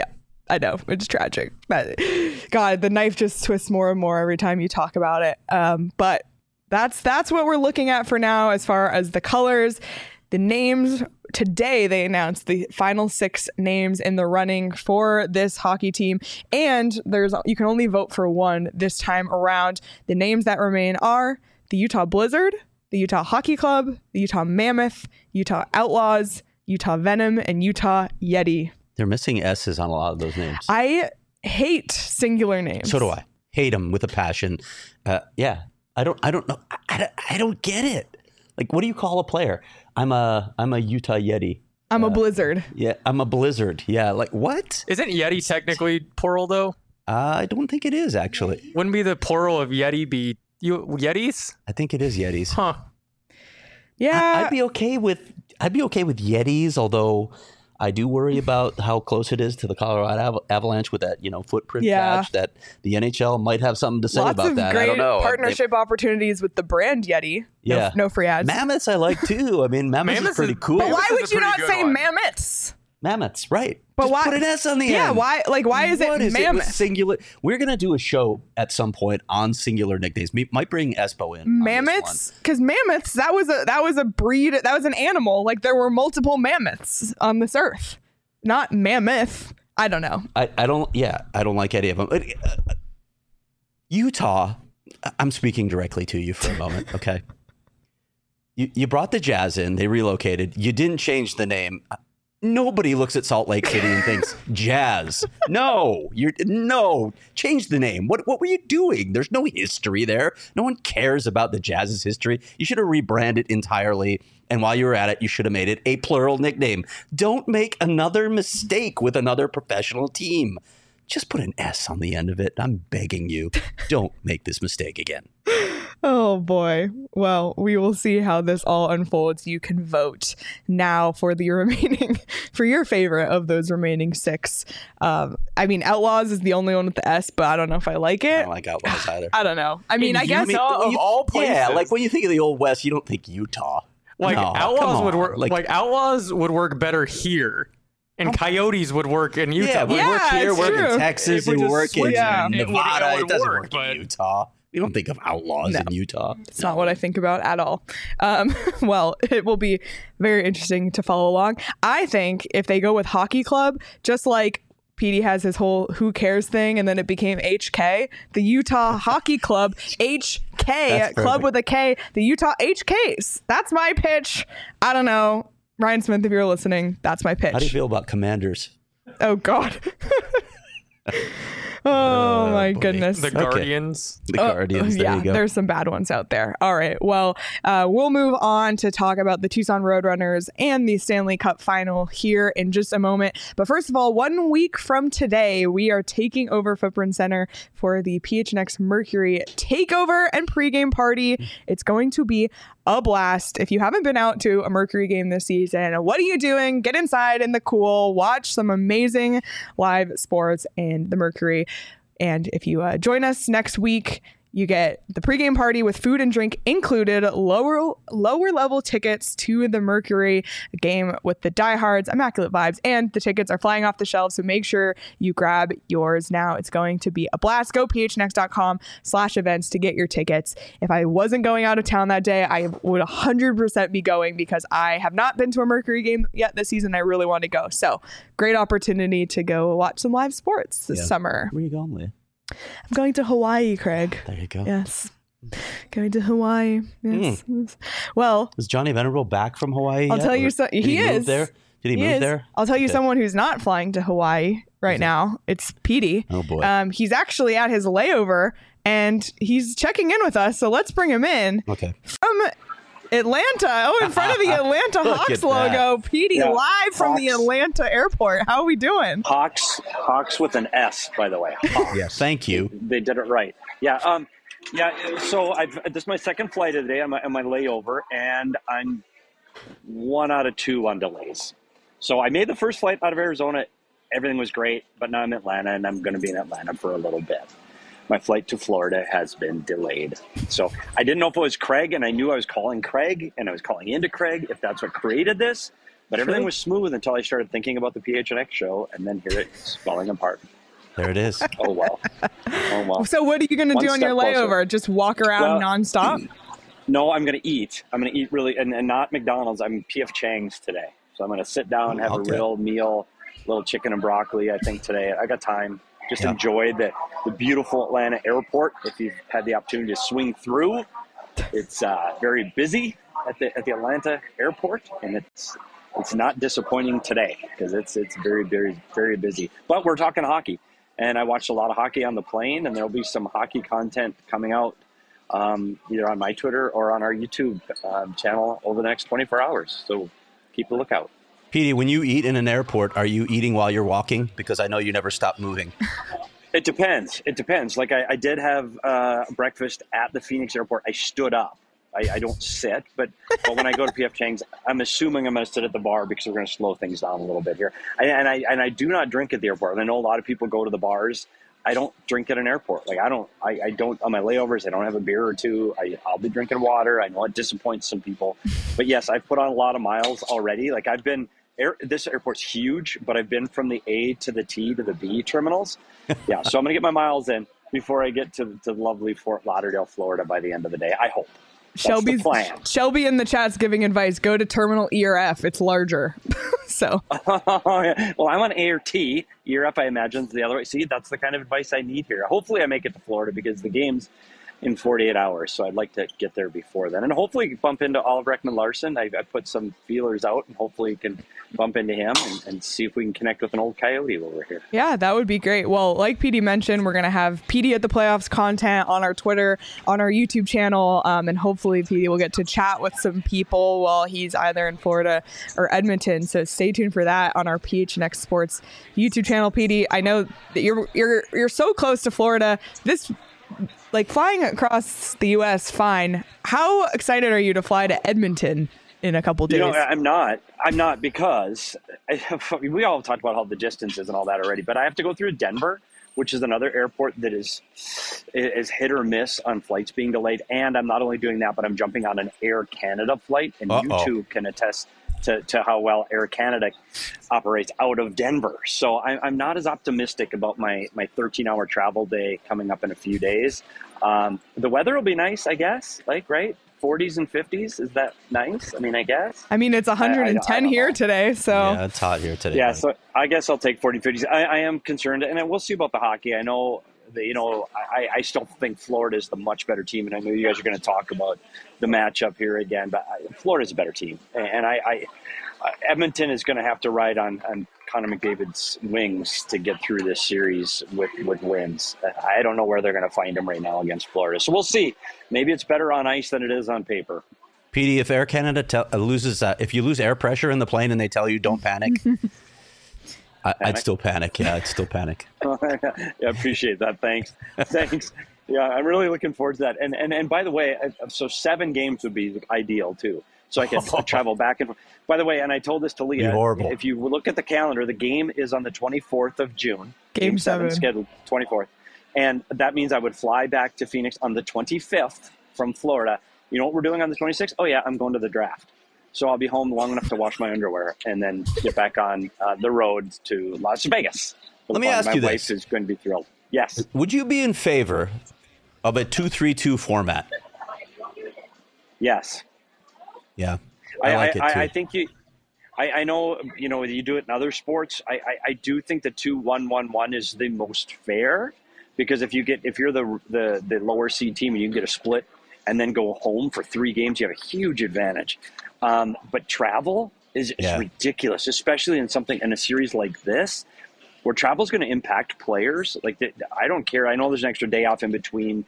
S1: I know. It's tragic. But God, the knife just twists more and more every time you talk about it. But that's what we're looking at for now as far as the colors. The names, today they announced the final 6 names in the running for this hockey team, and you can only vote for one this time around. The names that remain are the Utah Blizzard, the Utah Hockey Club, the Utah Mammoth, Utah Outlaws, Utah Venom, and Utah Yeti.
S2: They're missing S's on a lot of those names.
S1: I hate singular names.
S2: So do I. Hate them with a passion. Yeah. I don't know. I don't get it. Like, what do you call a player? I'm a Utah Yeti.
S1: I'm a Blizzard.
S2: Yeah, I'm a Blizzard. Yeah, like what?
S5: Isn't Yeti technically plural though?
S2: I don't think it is, actually.
S5: Wouldn't be the plural of Yeti be Yetis?
S2: I think it is Yetis.
S5: Huh.
S1: Yeah.
S2: I'd be okay with Yetis, although I do worry about how close it is to the Colorado Avalanche with that, footprint patch, that the NHL might have something to say about that.
S1: Great
S2: I don't know.
S1: Partnership opportunities with the brand Yeti.
S2: Yeah.
S1: No free ads.
S2: Mammoths I like too. I mean, Mammoths is pretty cool.
S1: But why would you not say Mammoths?
S2: Mammoths, right.
S1: But
S2: just
S1: why
S2: put an S on the end.
S1: Yeah, why is it Mammoth?
S2: Singular. We're going to do a show at some point on singular nicknames. We might bring Espo in.
S1: Mammoths? Because mammoths, that was a breed, that was an animal. Like, there were multiple mammoths on this earth. Not mammoth. I don't know.
S2: I don't like any of them. Utah, I'm speaking directly to you for a moment, okay? You brought the Jazz in. They relocated. You didn't change the name. Nobody looks at Salt Lake City and thinks Jazz. No, change the name. What were you doing? There's no history there. No one cares about the Jazz's history. You should have rebranded entirely. And while you were at it, you should have made it a plural nickname. Don't make another mistake with another professional team. Just put an S on the end of it. I'm begging you. Don't make this mistake again.
S1: Oh, boy. Well, we will see how this all unfolds. You can vote now for for your favorite of those remaining 6. I mean, Outlaws is the only one with the S, but I don't know if I like it.
S2: I don't like Outlaws either.
S1: I don't know. I mean, I guess
S5: of all places.
S2: Yeah, like when you think of the Old West, you don't think Utah.
S5: Outlaws would work. Like Outlaws would work better here. And Coyotes would work in Utah.
S2: Yeah, we work here, work in Texas, and work in
S5: Nevada.
S2: It doesn't work in Utah. You don't think of Outlaws in Utah.
S1: It's not what I think about at all. Well, it will be very interesting to follow along. I think if they go with Hockey Club, just like Petey has his whole Who Cares thing, and then it became HK, the Utah Hockey Club, HK, Club with a K, the Utah HKs. That's my pitch. I don't know. Ryan Smith, if you're listening, that's my pitch.
S2: How do you feel about Commanders?
S1: Oh, God. Oh my goodness.
S5: The Guardians.
S2: The Guardians. There you go.
S1: There's some bad ones out there. All right. Well, we'll move on to talk about the Tucson Roadrunners and the Stanley Cup final here in just a moment. But first of all, 1 week from today, we are taking over Footprint Center for the PHNX Mercury takeover and pregame party. It's going to be a blast. If you haven't been out to a Mercury game this season, what are you doing? Get inside in the cool, watch some amazing live sports and the Mercury. And if you join us next week, you get the pregame party with food and drink included, lower level tickets to the Mercury game with the diehards, immaculate vibes, and the tickets are flying off the shelves. So make sure you grab yours now. It's going to be a blast. Go phnx.com/events to get your tickets. If I wasn't going out of town that day, I would 100% be going because I have not been to a Mercury game yet this season. I really want to go. So great opportunity to go watch some live sports this summer.
S2: Where are you going, Leah?
S1: I'm going to Hawaii, Craig.
S2: There you go.
S1: Yes. Going to Hawaii. Yes. Well,
S2: is Johnny Venerable back from Hawaii?
S1: I'll tell you he is.
S2: Move there? Did he move there?
S1: I'll tell you someone who's not flying to Hawaii right now. It's Petey.
S2: Oh boy.
S1: He's actually at his layover and he's checking in with us. So let's bring him in.
S2: Okay.
S1: From Atlanta. Oh, in front of the Atlanta Hawks logo. Petey, live from the Atlanta airport. How are we doing?
S6: Hawks with an S, by the way. Hawks.
S2: Yes, thank you.
S6: They did it right. Yeah. So this is my second flight of the day on my layover, and I'm 1 out of 2 on delays. So I made the first flight out of Arizona. Everything was great, but now I'm in Atlanta, and I'm going to be in Atlanta for a little bit. My flight to Florida has been delayed. So I didn't know if it was Craig, and I knew I was calling Craig, and I was calling into Craig, if that's what created this. But everything was smooth until I started thinking about the PHNX show, and then here it's falling apart.
S2: There it is.
S6: Oh, well.
S1: So what are you going to do on your layover? Closer. Just walk around nonstop?
S6: No, I'm going to eat. I'm going to eat really, and not McDonald's. I'm P.F. Chang's today. So I'm going to sit down, have a real meal, a little chicken and broccoli, I think, today. I got time. Just enjoy the beautiful Atlanta airport. If you've had the opportunity to swing through, it's very busy at the Atlanta airport, and it's not disappointing today because it's very, very, very busy. But we're talking hockey, and I watched a lot of hockey on the plane, and there'll be some hockey content coming out either on my Twitter or on our YouTube channel over the next 24 hours. So keep a lookout.
S2: Petey, when you eat in an airport, are you eating while you're walking? Because I know you never stop moving.
S6: It depends. Like I did have breakfast at the Phoenix airport. I stood up. I don't sit, but when I go to P.F. Chang's, I'm assuming I'm going to sit at the bar because we're going to slow things down a little bit here. And I do not drink at the airport. And I know a lot of people go to the bars. I don't drink at an airport. Like I don't on my layovers. I don't have a beer or two. I'll be drinking water. I know it disappoints some people, but yes, I've put on a lot of miles already. Like this airport's huge, but I've been from the A to the T to the B terminals. Yeah, so I'm gonna get my miles in before I get to lovely Fort Lauderdale, Florida by the end of the day. I hope.
S1: Shelby in the chat's giving advice. Go to Terminal E or F. It's larger. So.
S6: Well, I'm on A or T. E or F, I imagine, is the other way. See, that's the kind of advice I need here. Hopefully I make it to Florida because the game's in 48 hours. So I'd like to get there before then. And hopefully bump into Oliver Ekman-Larsson. I put some feelers out and hopefully can bump into him and see if we can connect with an old Coyote over here.
S1: Yeah, that would be great. Well, like Petey mentioned, we're going to have Petey at the Playoffs content on our Twitter, on our YouTube channel. And hopefully Petey will get to chat with some people while he's either in Florida or Edmonton. So stay tuned for that on our PHNX Sports YouTube channel. Petey, I know that you're so close to Florida. Like flying across the U.S., fine. How excited are you to fly to Edmonton in a couple days?
S6: I'm not because we all talked about how the distance is and all that already, but I have to go through Denver, which is another airport that is hit or miss on flights being delayed. And I'm not only doing that, but I'm jumping on an Air Canada flight, and you two can attest to how well Air Canada operates out of Denver. So I'm not as optimistic about my 13-hour travel day coming up in a few days. The weather will be nice, I guess. Like, right? 40s and 50s. Is that nice? I mean, I guess.
S1: I mean, it's 110 here today, so.
S2: Yeah, it's hot here today.
S6: Yeah, so I guess I'll take 40, 50s. I am concerned, and we'll see about the hockey. I know that, I still think Florida is the much better team, and I know you guys are going to talk about the matchup here again, but Florida's a better team. And Edmonton is going to have to ride on Connor McDavid's wings to get through this series with wins. I don't know where they're going to find him right now against Florida. So we'll see. Maybe it's better on ice than it is on paper.
S2: PD, if Air Canada loses, if you lose air pressure in the plane and they tell you don't panic, I'd still panic. Yeah, I'd still panic.
S6: I appreciate that. Thanks. Yeah, I'm really looking forward to that. And by the way, so 7 games would be ideal too. So I can travel back and forth. By the way, and I told this to Leah, if you look at the calendar, the game is on the 24th of June. Game 7 scheduled 24th. And that means I would fly back to Phoenix on the 25th from Florida. You know what we're doing on the 26th? Oh, yeah, I'm going to the draft. So I'll be home long enough to wash my underwear and then get back on the road to Las Vegas.
S2: Let me ask you this.
S6: My wife is going to be thrilled. Yes.
S2: Would you be in favor of a 2-3-2 format?
S6: Yes.
S2: Yeah, I like it too.
S6: I think I know, you do it in other sports. I do think the 2-1-1-1 is the most fair, because if you're the lower seed team and you can get a split and then go home for 3 games, you have a huge advantage. But travel is ridiculous, especially in a series like this, where travel is going to impact players. Like, I don't care. I know there's an extra day off in between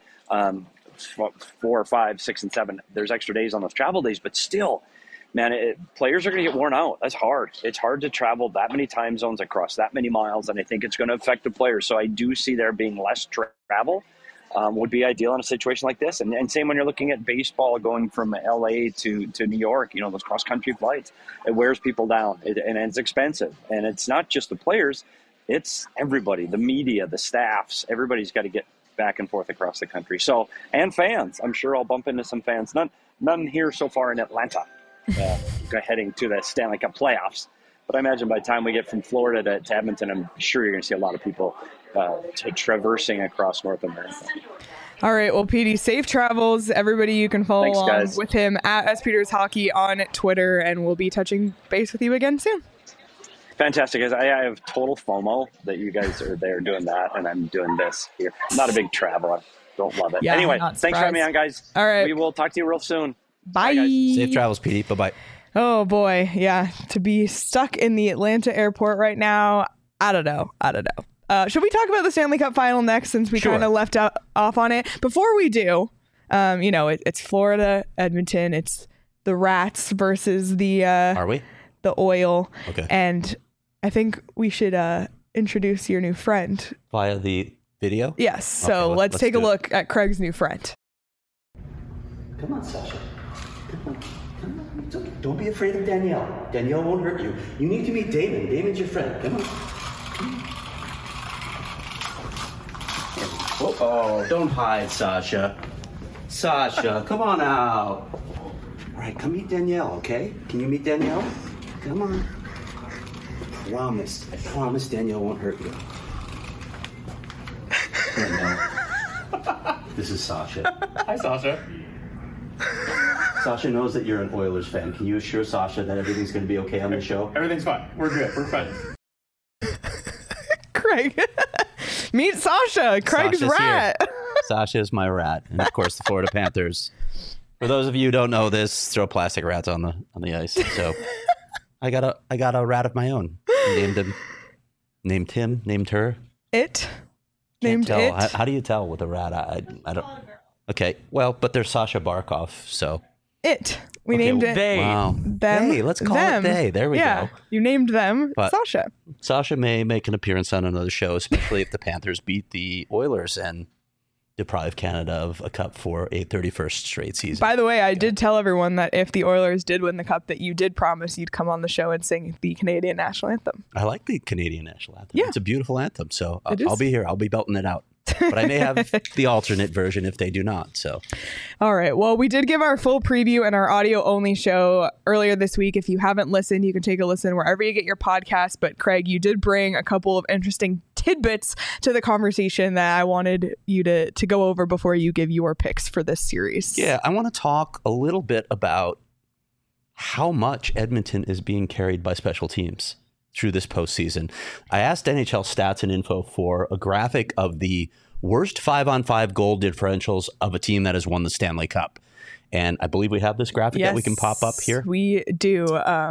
S6: 4, 5, 6, and 7. There's extra days on those travel days, but still, man, players are going to get worn out. That's hard. It's hard to travel that many time zones across that many miles, and I think it's going to affect the players. So I do see there being less travel would be ideal in a situation like this. And same when you're looking at baseball going from LA to New York, those cross-country flights, it wears people down, and it's expensive. And it's not just the players, it's everybody, the media, the staffs, everybody's got to get back and forth across the country. So, and fans, I'm sure I'll bump into some fans. None here so far in Atlanta, heading to the Stanley Cup playoffs. But I imagine by the time we get from Florida to Edmonton, I'm sure you're going to see a lot of people traversing across North America.
S1: All right. Well, PD, safe travels. Everybody, you can follow along
S6: guys.
S1: With him at SPeters Hockey on Twitter, and we'll be touching base with you again soon.
S6: Fantastic, guys. I have total FOMO that you guys are there doing that, and I'm doing this here. I'm not a big traveler. Don't love it.
S1: Yeah,
S6: anyway, thanks for having me on, guys.
S1: All right.
S6: We will talk to you real soon.
S1: Bye.
S2: Safe travels, PD. Bye-bye.
S1: Oh, boy. Yeah. To be stuck in the Atlanta airport right now, I don't know. Should we talk about the Stanley Cup final next, since we kind of left off on it? Before we do, it's Florida, Edmonton. It's the Rats versus the...
S2: Are we?
S1: The Oil.
S2: Okay.
S1: And I think we should introduce your new friend.
S2: Via the video?
S1: Yes. So let's take a look at Craig's new friend.
S7: Come on, Sasha. Come on. It's okay. Don't be afraid of Danielle. Danielle won't hurt you. You need to meet Damon. Damon's your friend. Come on. Oh, don't hide, Sasha. Sasha, come on out. All right, come meet Danielle, okay? Can you meet Danielle? Come on. I promise Danielle won't hurt you. Danielle. This is Sasha.
S5: Hi, Sasha.
S7: Sasha knows that you're an Oilers fan. Can you assure Sasha that everything's going to be okay on the show?
S5: Everything's fine. We're good. We're friends.
S1: Craig. Meet Sasha. Craig's
S2: Sasha's
S1: rat.
S2: Here. Sasha is my rat. And of course, the Florida Panthers. For those of you who don't know this, throw plastic rats on the ice. So I got a rat of my own. Named him. Named her.
S1: It.
S2: Can't
S1: Named
S2: tell.
S1: it.
S2: How do you tell with a rat? I don't. Okay. Well, but there's Sasha Barkov. So
S1: it. We named it.
S5: They.
S2: wow.
S1: Them.
S2: Hey, let's call
S1: them.
S2: it they. There we go.
S1: You named them
S2: But-
S1: Sasha.
S2: Sasha may make an appearance on another show, especially if the Panthers beat the Oilers and deprive Canada of a cup for a 31st straight season.
S1: By the way, I did tell everyone that if the Oilers did win the cup, that you did promise you'd come on the show and sing the Canadian national anthem.
S2: I like the Canadian national anthem.
S1: Yeah.
S2: It's a beautiful anthem. So
S1: It
S2: I'll
S1: is.
S2: be here. I'll be belting it out. But I may have the alternate version if they do not. So
S1: All right. Well, we did give our full preview and our audio only show earlier this week. If you haven't listened, you can take a listen wherever you get your podcast. But Craig, you did bring a couple of interesting tidbits to the conversation that I wanted you to go over before you give your picks for this series.
S2: Yeah, I want to talk a little bit about how much Edmonton is being carried by special teams through this postseason. I asked NHL Stats and Info for a graphic of the worst 5-on-5 goal differentials of a team that has won the Stanley Cup. And I believe we have this graphic that we can pop up here.
S1: We do.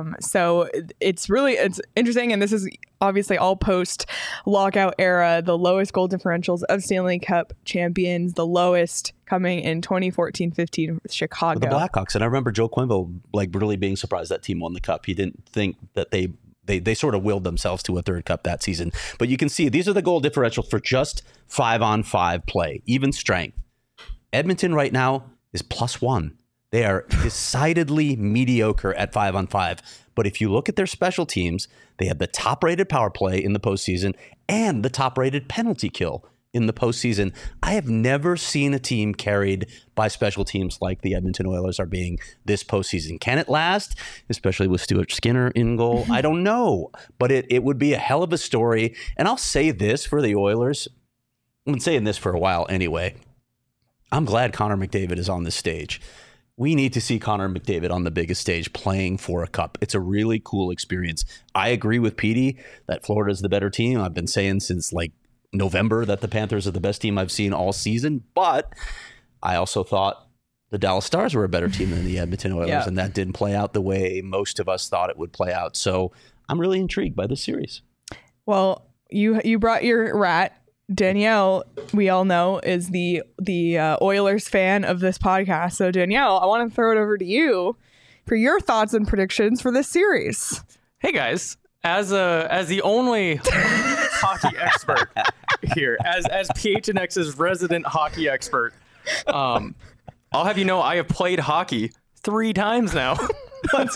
S1: So it's interesting. And this is obviously all post lockout era, the lowest goal differentials of Stanley Cup champions, the lowest coming in 2014-15 with Chicago.
S2: The Blackhawks. And I remember Joe Quenneville really being surprised that team won the cup. He didn't think that they sort of willed themselves to a third cup that season. But you can see these are the goal differentials for just 5-on-5 play, even strength. Edmonton right now is +1. They are decidedly mediocre at 5-on-5. But if you look at their special teams, they have the top-rated power play in the postseason and the top-rated penalty kill in the postseason. I have never seen a team carried by special teams like the Edmonton Oilers are being this postseason. Can it last, especially with Stuart Skinner in goal? I don't know, but it would be a hell of a story. And I'll say this for the Oilers. I've been saying this for a while anyway. I'm glad Connor McDavid is on this stage. We need to see Connor McDavid on the biggest stage playing for a cup. It's a really cool experience. I agree with Petey that Florida's the better team. I've been saying since November that the Panthers are the best team I've seen all season. But I also thought the Dallas Stars were a better team than the Edmonton Oilers, and that didn't play out the way most of us thought it would play out. So I'm really intrigued by this series.
S1: Well, you brought your rat. Danielle, we all know, is the Oilers fan of this podcast. So Danielle, I want to throw it over to you for your thoughts and predictions for this series.
S5: Hey guys, as the only hockey expert here, as PHNX's resident hockey expert, I'll have you know I have played hockey 3 times now.
S1: Let's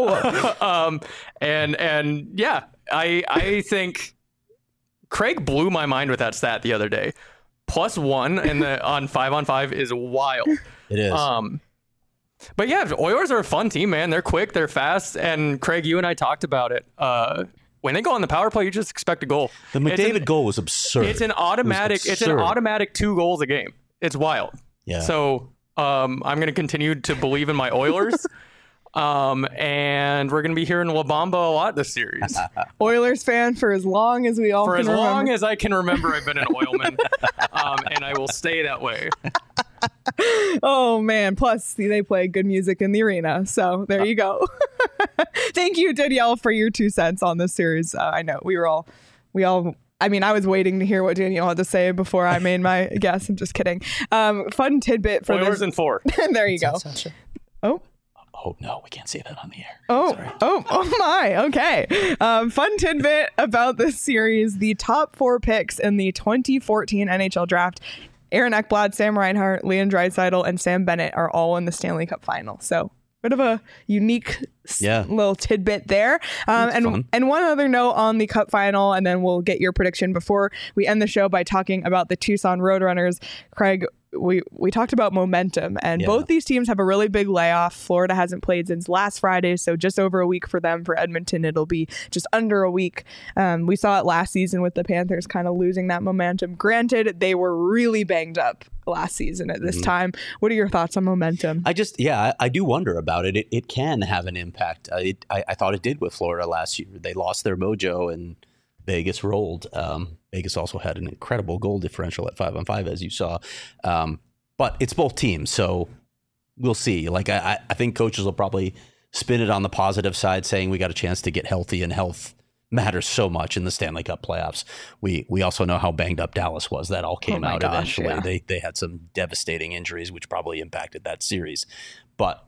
S1: go.
S5: And yeah, I think Craig blew my mind with that stat the other day. +1 on 5-on-5 is wild.
S2: It is.
S5: But yeah, Oilers are a fun team, man. They're quick, they're fast, and Craig, you and I talked about it. When they go on the power play, you just expect a goal.
S2: The McDavid goal was absurd.
S5: It's an automatic. It's an automatic 2 goals a game. It's wild.
S2: Yeah.
S5: So I'm going to continue to believe in my Oilers. And we're going to be hearing La Bamba a lot this series.
S1: Oilers fan for as long as we all
S5: for
S1: can remember.
S5: For as long as I can remember, I've been an Oilman. And I will stay that way.
S1: Oh, man. Plus, they play good music in the arena. So there you go. Thank you, Danielle, for your 2 cents on this series. I know we all, I mean, I was waiting to hear what Danielle had to say before I made my guess. I'm just kidding. Fun tidbit for
S5: Oilers in 4.
S1: There you go.
S2: Oh, no, we can't say that on the air.
S1: Oh my. Okay. Fun tidbit about this series. The top 4 picks in the 2014 NHL draft, Aaron Ekblad, Sam Reinhart, Leon Draisaitl, and Sam Bennett are all in the Stanley Cup final. So bit of a unique little tidbit there. And one other note on the Cup final, and then we'll get your prediction before we end the show by talking about the Tucson Roadrunners. Craig, we talked about momentum, and both these teams have a really big layoff. Florida hasn't played since last Friday, so just over a week for them. For Edmonton, it'll be just under a week. We saw it last season with the Panthers kind of losing that momentum. Granted, they were really banged up last season at this time. What are your thoughts on momentum?
S2: I do wonder about it. It can have an impact. I thought it did with Florida last year. They lost their mojo and Vegas rolled. Vegas also had an incredible goal differential at 5-on-5, as you saw. But it's both teams, so we'll see. I think coaches will probably spin it on the positive side, saying we got a chance to get healthy, and health matters so much in the Stanley Cup playoffs. We also know how banged up Dallas was. That all came out eventually. Yeah. They had some devastating injuries, which probably impacted that series. But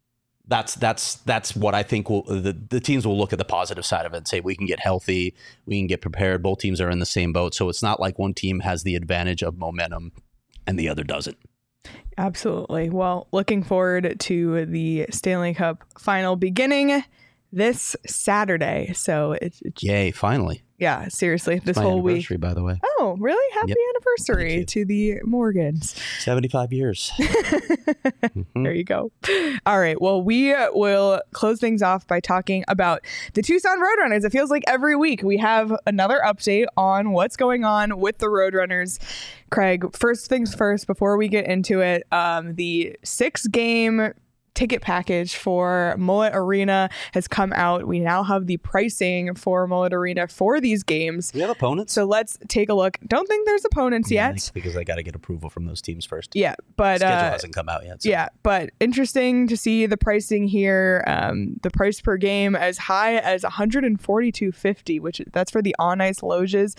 S2: that's what I think the teams will look at the positive side of it and say we can get healthy, we can get prepared. Both teams are in the same boat, so it's not like one team has the advantage of momentum and the other doesn't.
S1: Absolutely. Well, looking forward to the Stanley Cup final beginning this Saturday. So it's
S2: yay! Finally,
S1: Yeah, seriously, this
S2: My
S1: whole week.
S2: anniversary, by the way.
S1: Oh, really? Happy
S2: Yep.
S1: anniversary
S2: Thank you.
S1: to the Morgans.
S2: 75 years.
S1: There you go. All right. Well, we will close things off by talking about the Tucson Roadrunners. It feels like every week we have another update on what's going on with the Roadrunners. Craig, first things first, before we get into it, the 6-game ticket package for Mullet Arena has come out. We now have the pricing for Mullet Arena for these games.
S2: Do we have opponents?
S1: So let's take a look. Don't think there's opponents yet.
S2: Because I got to get approval from those teams first.
S1: Yeah, but
S2: Schedule hasn't come out yet. So.
S1: yeah, but interesting to see the pricing here. The price per game as high as $142.50, which that's for the on ice loges.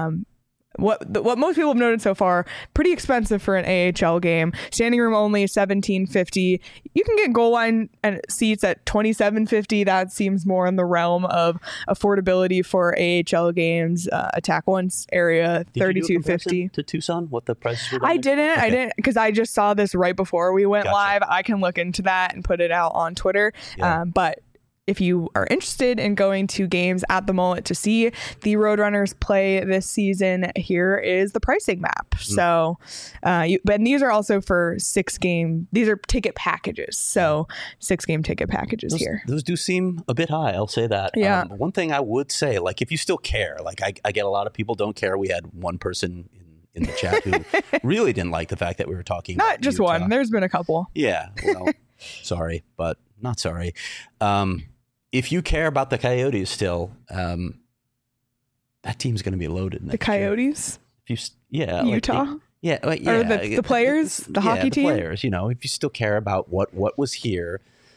S1: What most people have noted so far, pretty expensive for an AHL game. Standing room only $17.50. You can get goal line and seats at $27.50. That seems more in the realm of affordability for AHL games. Attack Once area $32.50
S2: to Tucson. What the prices were?
S1: I didn't because I just saw this right before we went
S2: Gotcha.
S1: live. I can look into that and put it out on Twitter.
S2: Yeah.
S1: But if you are interested in going to games at the Mullet to see the Roadrunners play this season, here is the pricing map. So, but these are also for 6-game. These are ticket packages. So 6-game ticket packages here.
S2: Those do seem a bit high. I'll say that.
S1: Yeah.
S2: One thing I would say, like, if you still care, like I get a lot of people don't care. We had one person in the chat who really didn't like the fact that we were talking.
S1: Not
S2: about
S1: just
S2: Utah.
S1: one. There's been a couple.
S2: Yeah. Well, sorry, but not sorry. If you care about the Coyotes still, that team's going to be loaded next
S1: The Coyotes?
S2: year. Yeah,
S1: Utah?
S2: Or
S1: Or the players? The hockey team?
S2: The players, if you still care about what was here,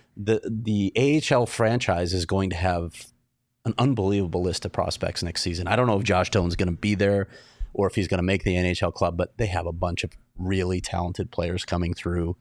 S2: the AHL franchise is going to have an unbelievable list of prospects next season. I don't know if Josh Doan's going to be there or if he's going to make the NHL club, but they have a bunch of really talented players coming through.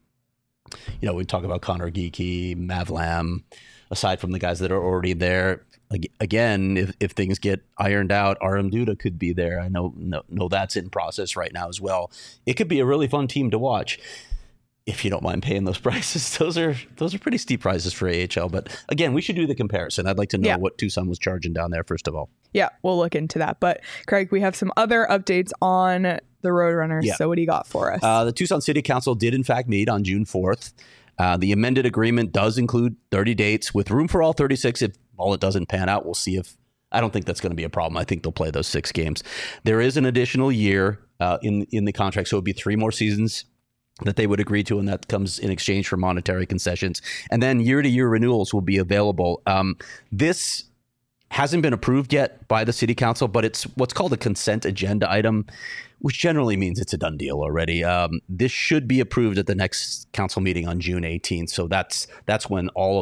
S2: We talk about Connor Geekie, Mav Lam, aside from the guys that are already there. Again, if things get ironed out, Aram Duda could be there. I know that's in process right now as well. It could be a really fun team to watch if you don't mind paying those prices. Those are pretty steep prices for AHL. But again, we should do the comparison. I'd like to know what Tucson was charging down there, first of all. Yeah,
S1: we'll look into that. But Craig, we have some other updates on the Roadrunners. Yeah. So what do you got for us? The
S2: Tucson City Council did in fact meet on June 4th. The amended agreement does include 30 dates with room for all 36. If all it doesn't pan out, we'll see if I don't think that's going to be a problem. I think they'll play those 6 games. There is an additional year in the contract, so it would be 3 more seasons that they would agree to, and that comes in exchange for monetary concessions. And then year-to-year renewals will be available. This hasn't been approved yet by the city council, but it's what's called a consent agenda item, which generally means it's a done deal already. This should be approved at the next council meeting on June 18th. So that's when all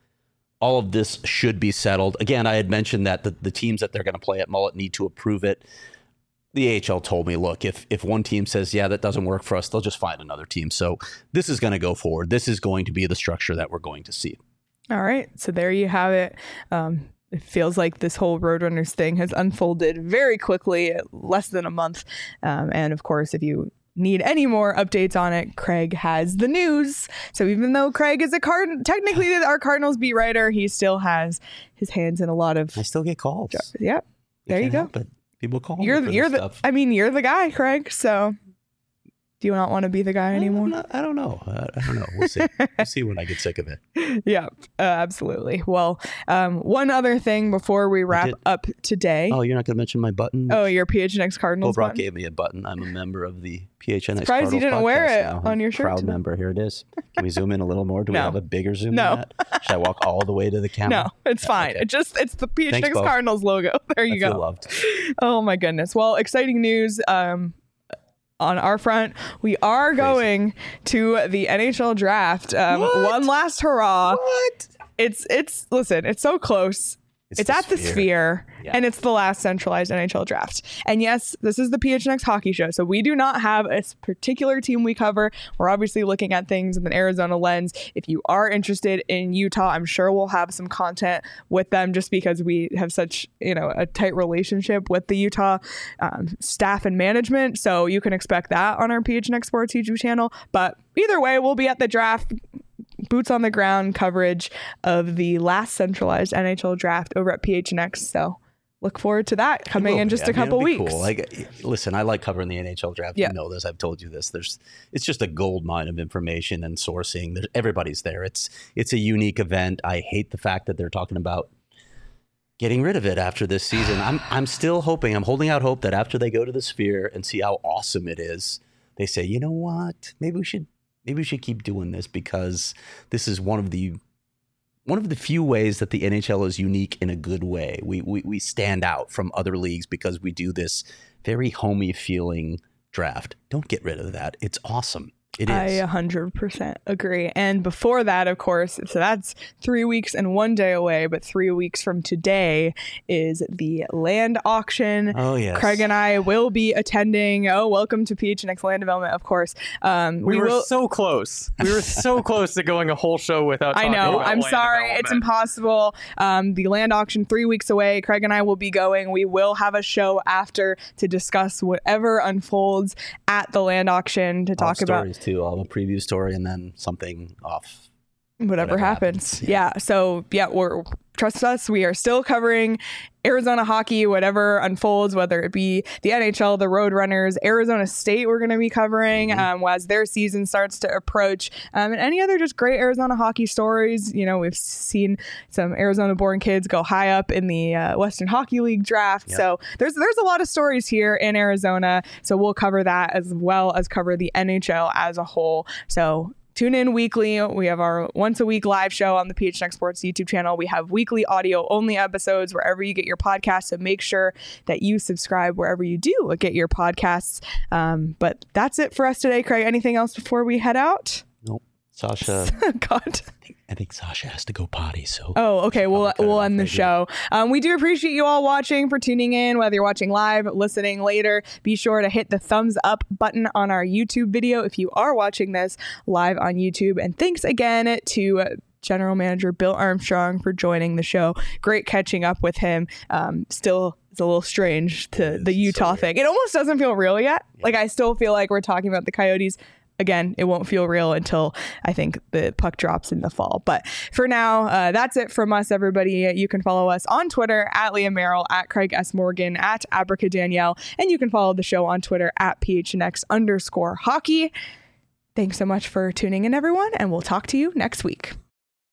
S2: of this should be settled. Again, I had mentioned that the teams that they're going to play at Mullet need to approve it. The AHL told me, look, if one team says, yeah, that doesn't work for us, they'll just find another team. So this is going to go forward. This is going to be the structure that we're going to see. All right. So there you have it. It feels like this whole Roadrunners thing has unfolded very quickly, less than a month. And of course, if you need any more updates on it, Craig has the news. So even though Craig is technically our Cardinals beat writer, he still has his hands in a lot of. I still get calls.
S1: Yeah, there you go.
S2: But people call.
S1: You're the guy, Craig. So. Do you not want to be the guy anymore?
S2: I don't know. We'll see. We'll see when I get sick of it.
S1: Yeah, absolutely. Well, one other thing before we wrap up today.
S2: Oh, you're not going to mention my button?
S1: Oh, your PHNX Cardinals
S2: Brock
S1: button?
S2: gave me a button. I'm a member of the PHNX
S1: Surprised
S2: Cardinals
S1: you didn't wear it
S2: now.
S1: on your shirt
S2: Proud
S1: today.
S2: member. Here it is. Can we zoom in a little more? Do we have a bigger zoom
S1: No.
S2: than that? Should I walk all the way to the camera?
S1: No, it's fine.
S2: Okay.
S1: It's the PHNX
S2: Thanks,
S1: Cardinals logo. There you
S2: I
S1: go.
S2: feel loved.
S1: Oh my goodness. Well, exciting news. On our front, we are going to the NHL draft. One last hurrah.
S2: What?
S1: Listen, it's so close. It's at the Sphere, and it's the last centralized NHL draft. And yes, this is the PHNX Hockey Show, so we do not have a particular team we cover. We're obviously looking at things in an Arizona lens. If you are interested in Utah, I'm sure we'll have some content with them just because we have such, a tight relationship with the Utah staff and management. So you can expect that on our PHNX Sports YouTube channel. But either way, we'll be at the draft. Boots on the ground coverage of the last centralized NHL draft over at PHNX. So look forward to that coming in just a couple weeks.
S2: Cool. Like, listen, I like covering the NHL draft.
S1: Yeah.
S2: You know this. I've told you this. It's just a gold mine of information and sourcing. Everybody's there. It's a unique event. I hate the fact that they're talking about getting rid of it after this season. I'm still hoping. I'm holding out hope that after they go to the Sphere and see how awesome it is, they say, you know what? Maybe we should keep doing this, because this is one of the few ways that the NHL is unique in a good way. We stand out from other leagues because we do this very homey feeling draft. Don't get rid of that. It's awesome. It is.
S1: I 100% agree. And before that, of course, so that's 3 weeks and 1 day away, but 3 weeks from today is the land auction.
S2: Oh, yes.
S1: Craig and I will be attending. Oh, welcome to PHNX Land Development, of course.
S5: We were so close. We were so close to going a whole show without talking
S1: I know.
S5: about
S1: I'm
S5: land
S1: sorry.
S5: development.
S1: It's impossible. The land auction 3 weeks away. Craig and I will be going. We will have a show after to discuss whatever unfolds at the land auction, to talk about
S2: stories too. I'll have a preview story and then something off.
S1: Whatever happens. Yeah. So yeah, trust us. We are still covering Arizona hockey, whatever unfolds, whether it be the NHL, the Roadrunners, Arizona State, we're going to be covering as their season starts to approach, and any other just great Arizona hockey stories. You know, we've seen some Arizona-born kids go high up in the Western Hockey League draft. Yep. So there's a lot of stories here in Arizona. So we'll cover that as well as cover the NHL as a whole. So tune in weekly. We have our once a week live show on the PHNX Sports YouTube channel. We have weekly audio only episodes wherever you get your podcasts. So make sure that you subscribe wherever you do get your podcasts. But that's it for us today. Craig, anything else before we head out?
S2: Nope. Sasha.
S1: God.
S2: I think Sasha has to go potty. So.
S1: Oh, okay. We'll end the show. We do appreciate you all watching, for tuning in, whether you're watching live, listening later. Be sure to hit the thumbs up button on our YouTube video if you are watching this live on YouTube. And thanks again to General Manager Bill Armstrong for joining the show. Great catching up with him. Still, it's a little strange to the Utah thing. It almost doesn't feel real yet. Yeah. Like, I still feel like we're talking about the Coyotes. Again, it won't feel real until I think the puck drops in the fall. But for now, that's it from us, everybody. You can follow us on Twitter at Liam Merrill, at Craig S. Morgan, at Abrica Danielle, and you can follow the show on Twitter at PHNX_hockey. Thanks so much for tuning in, everyone, and we'll talk to you next week.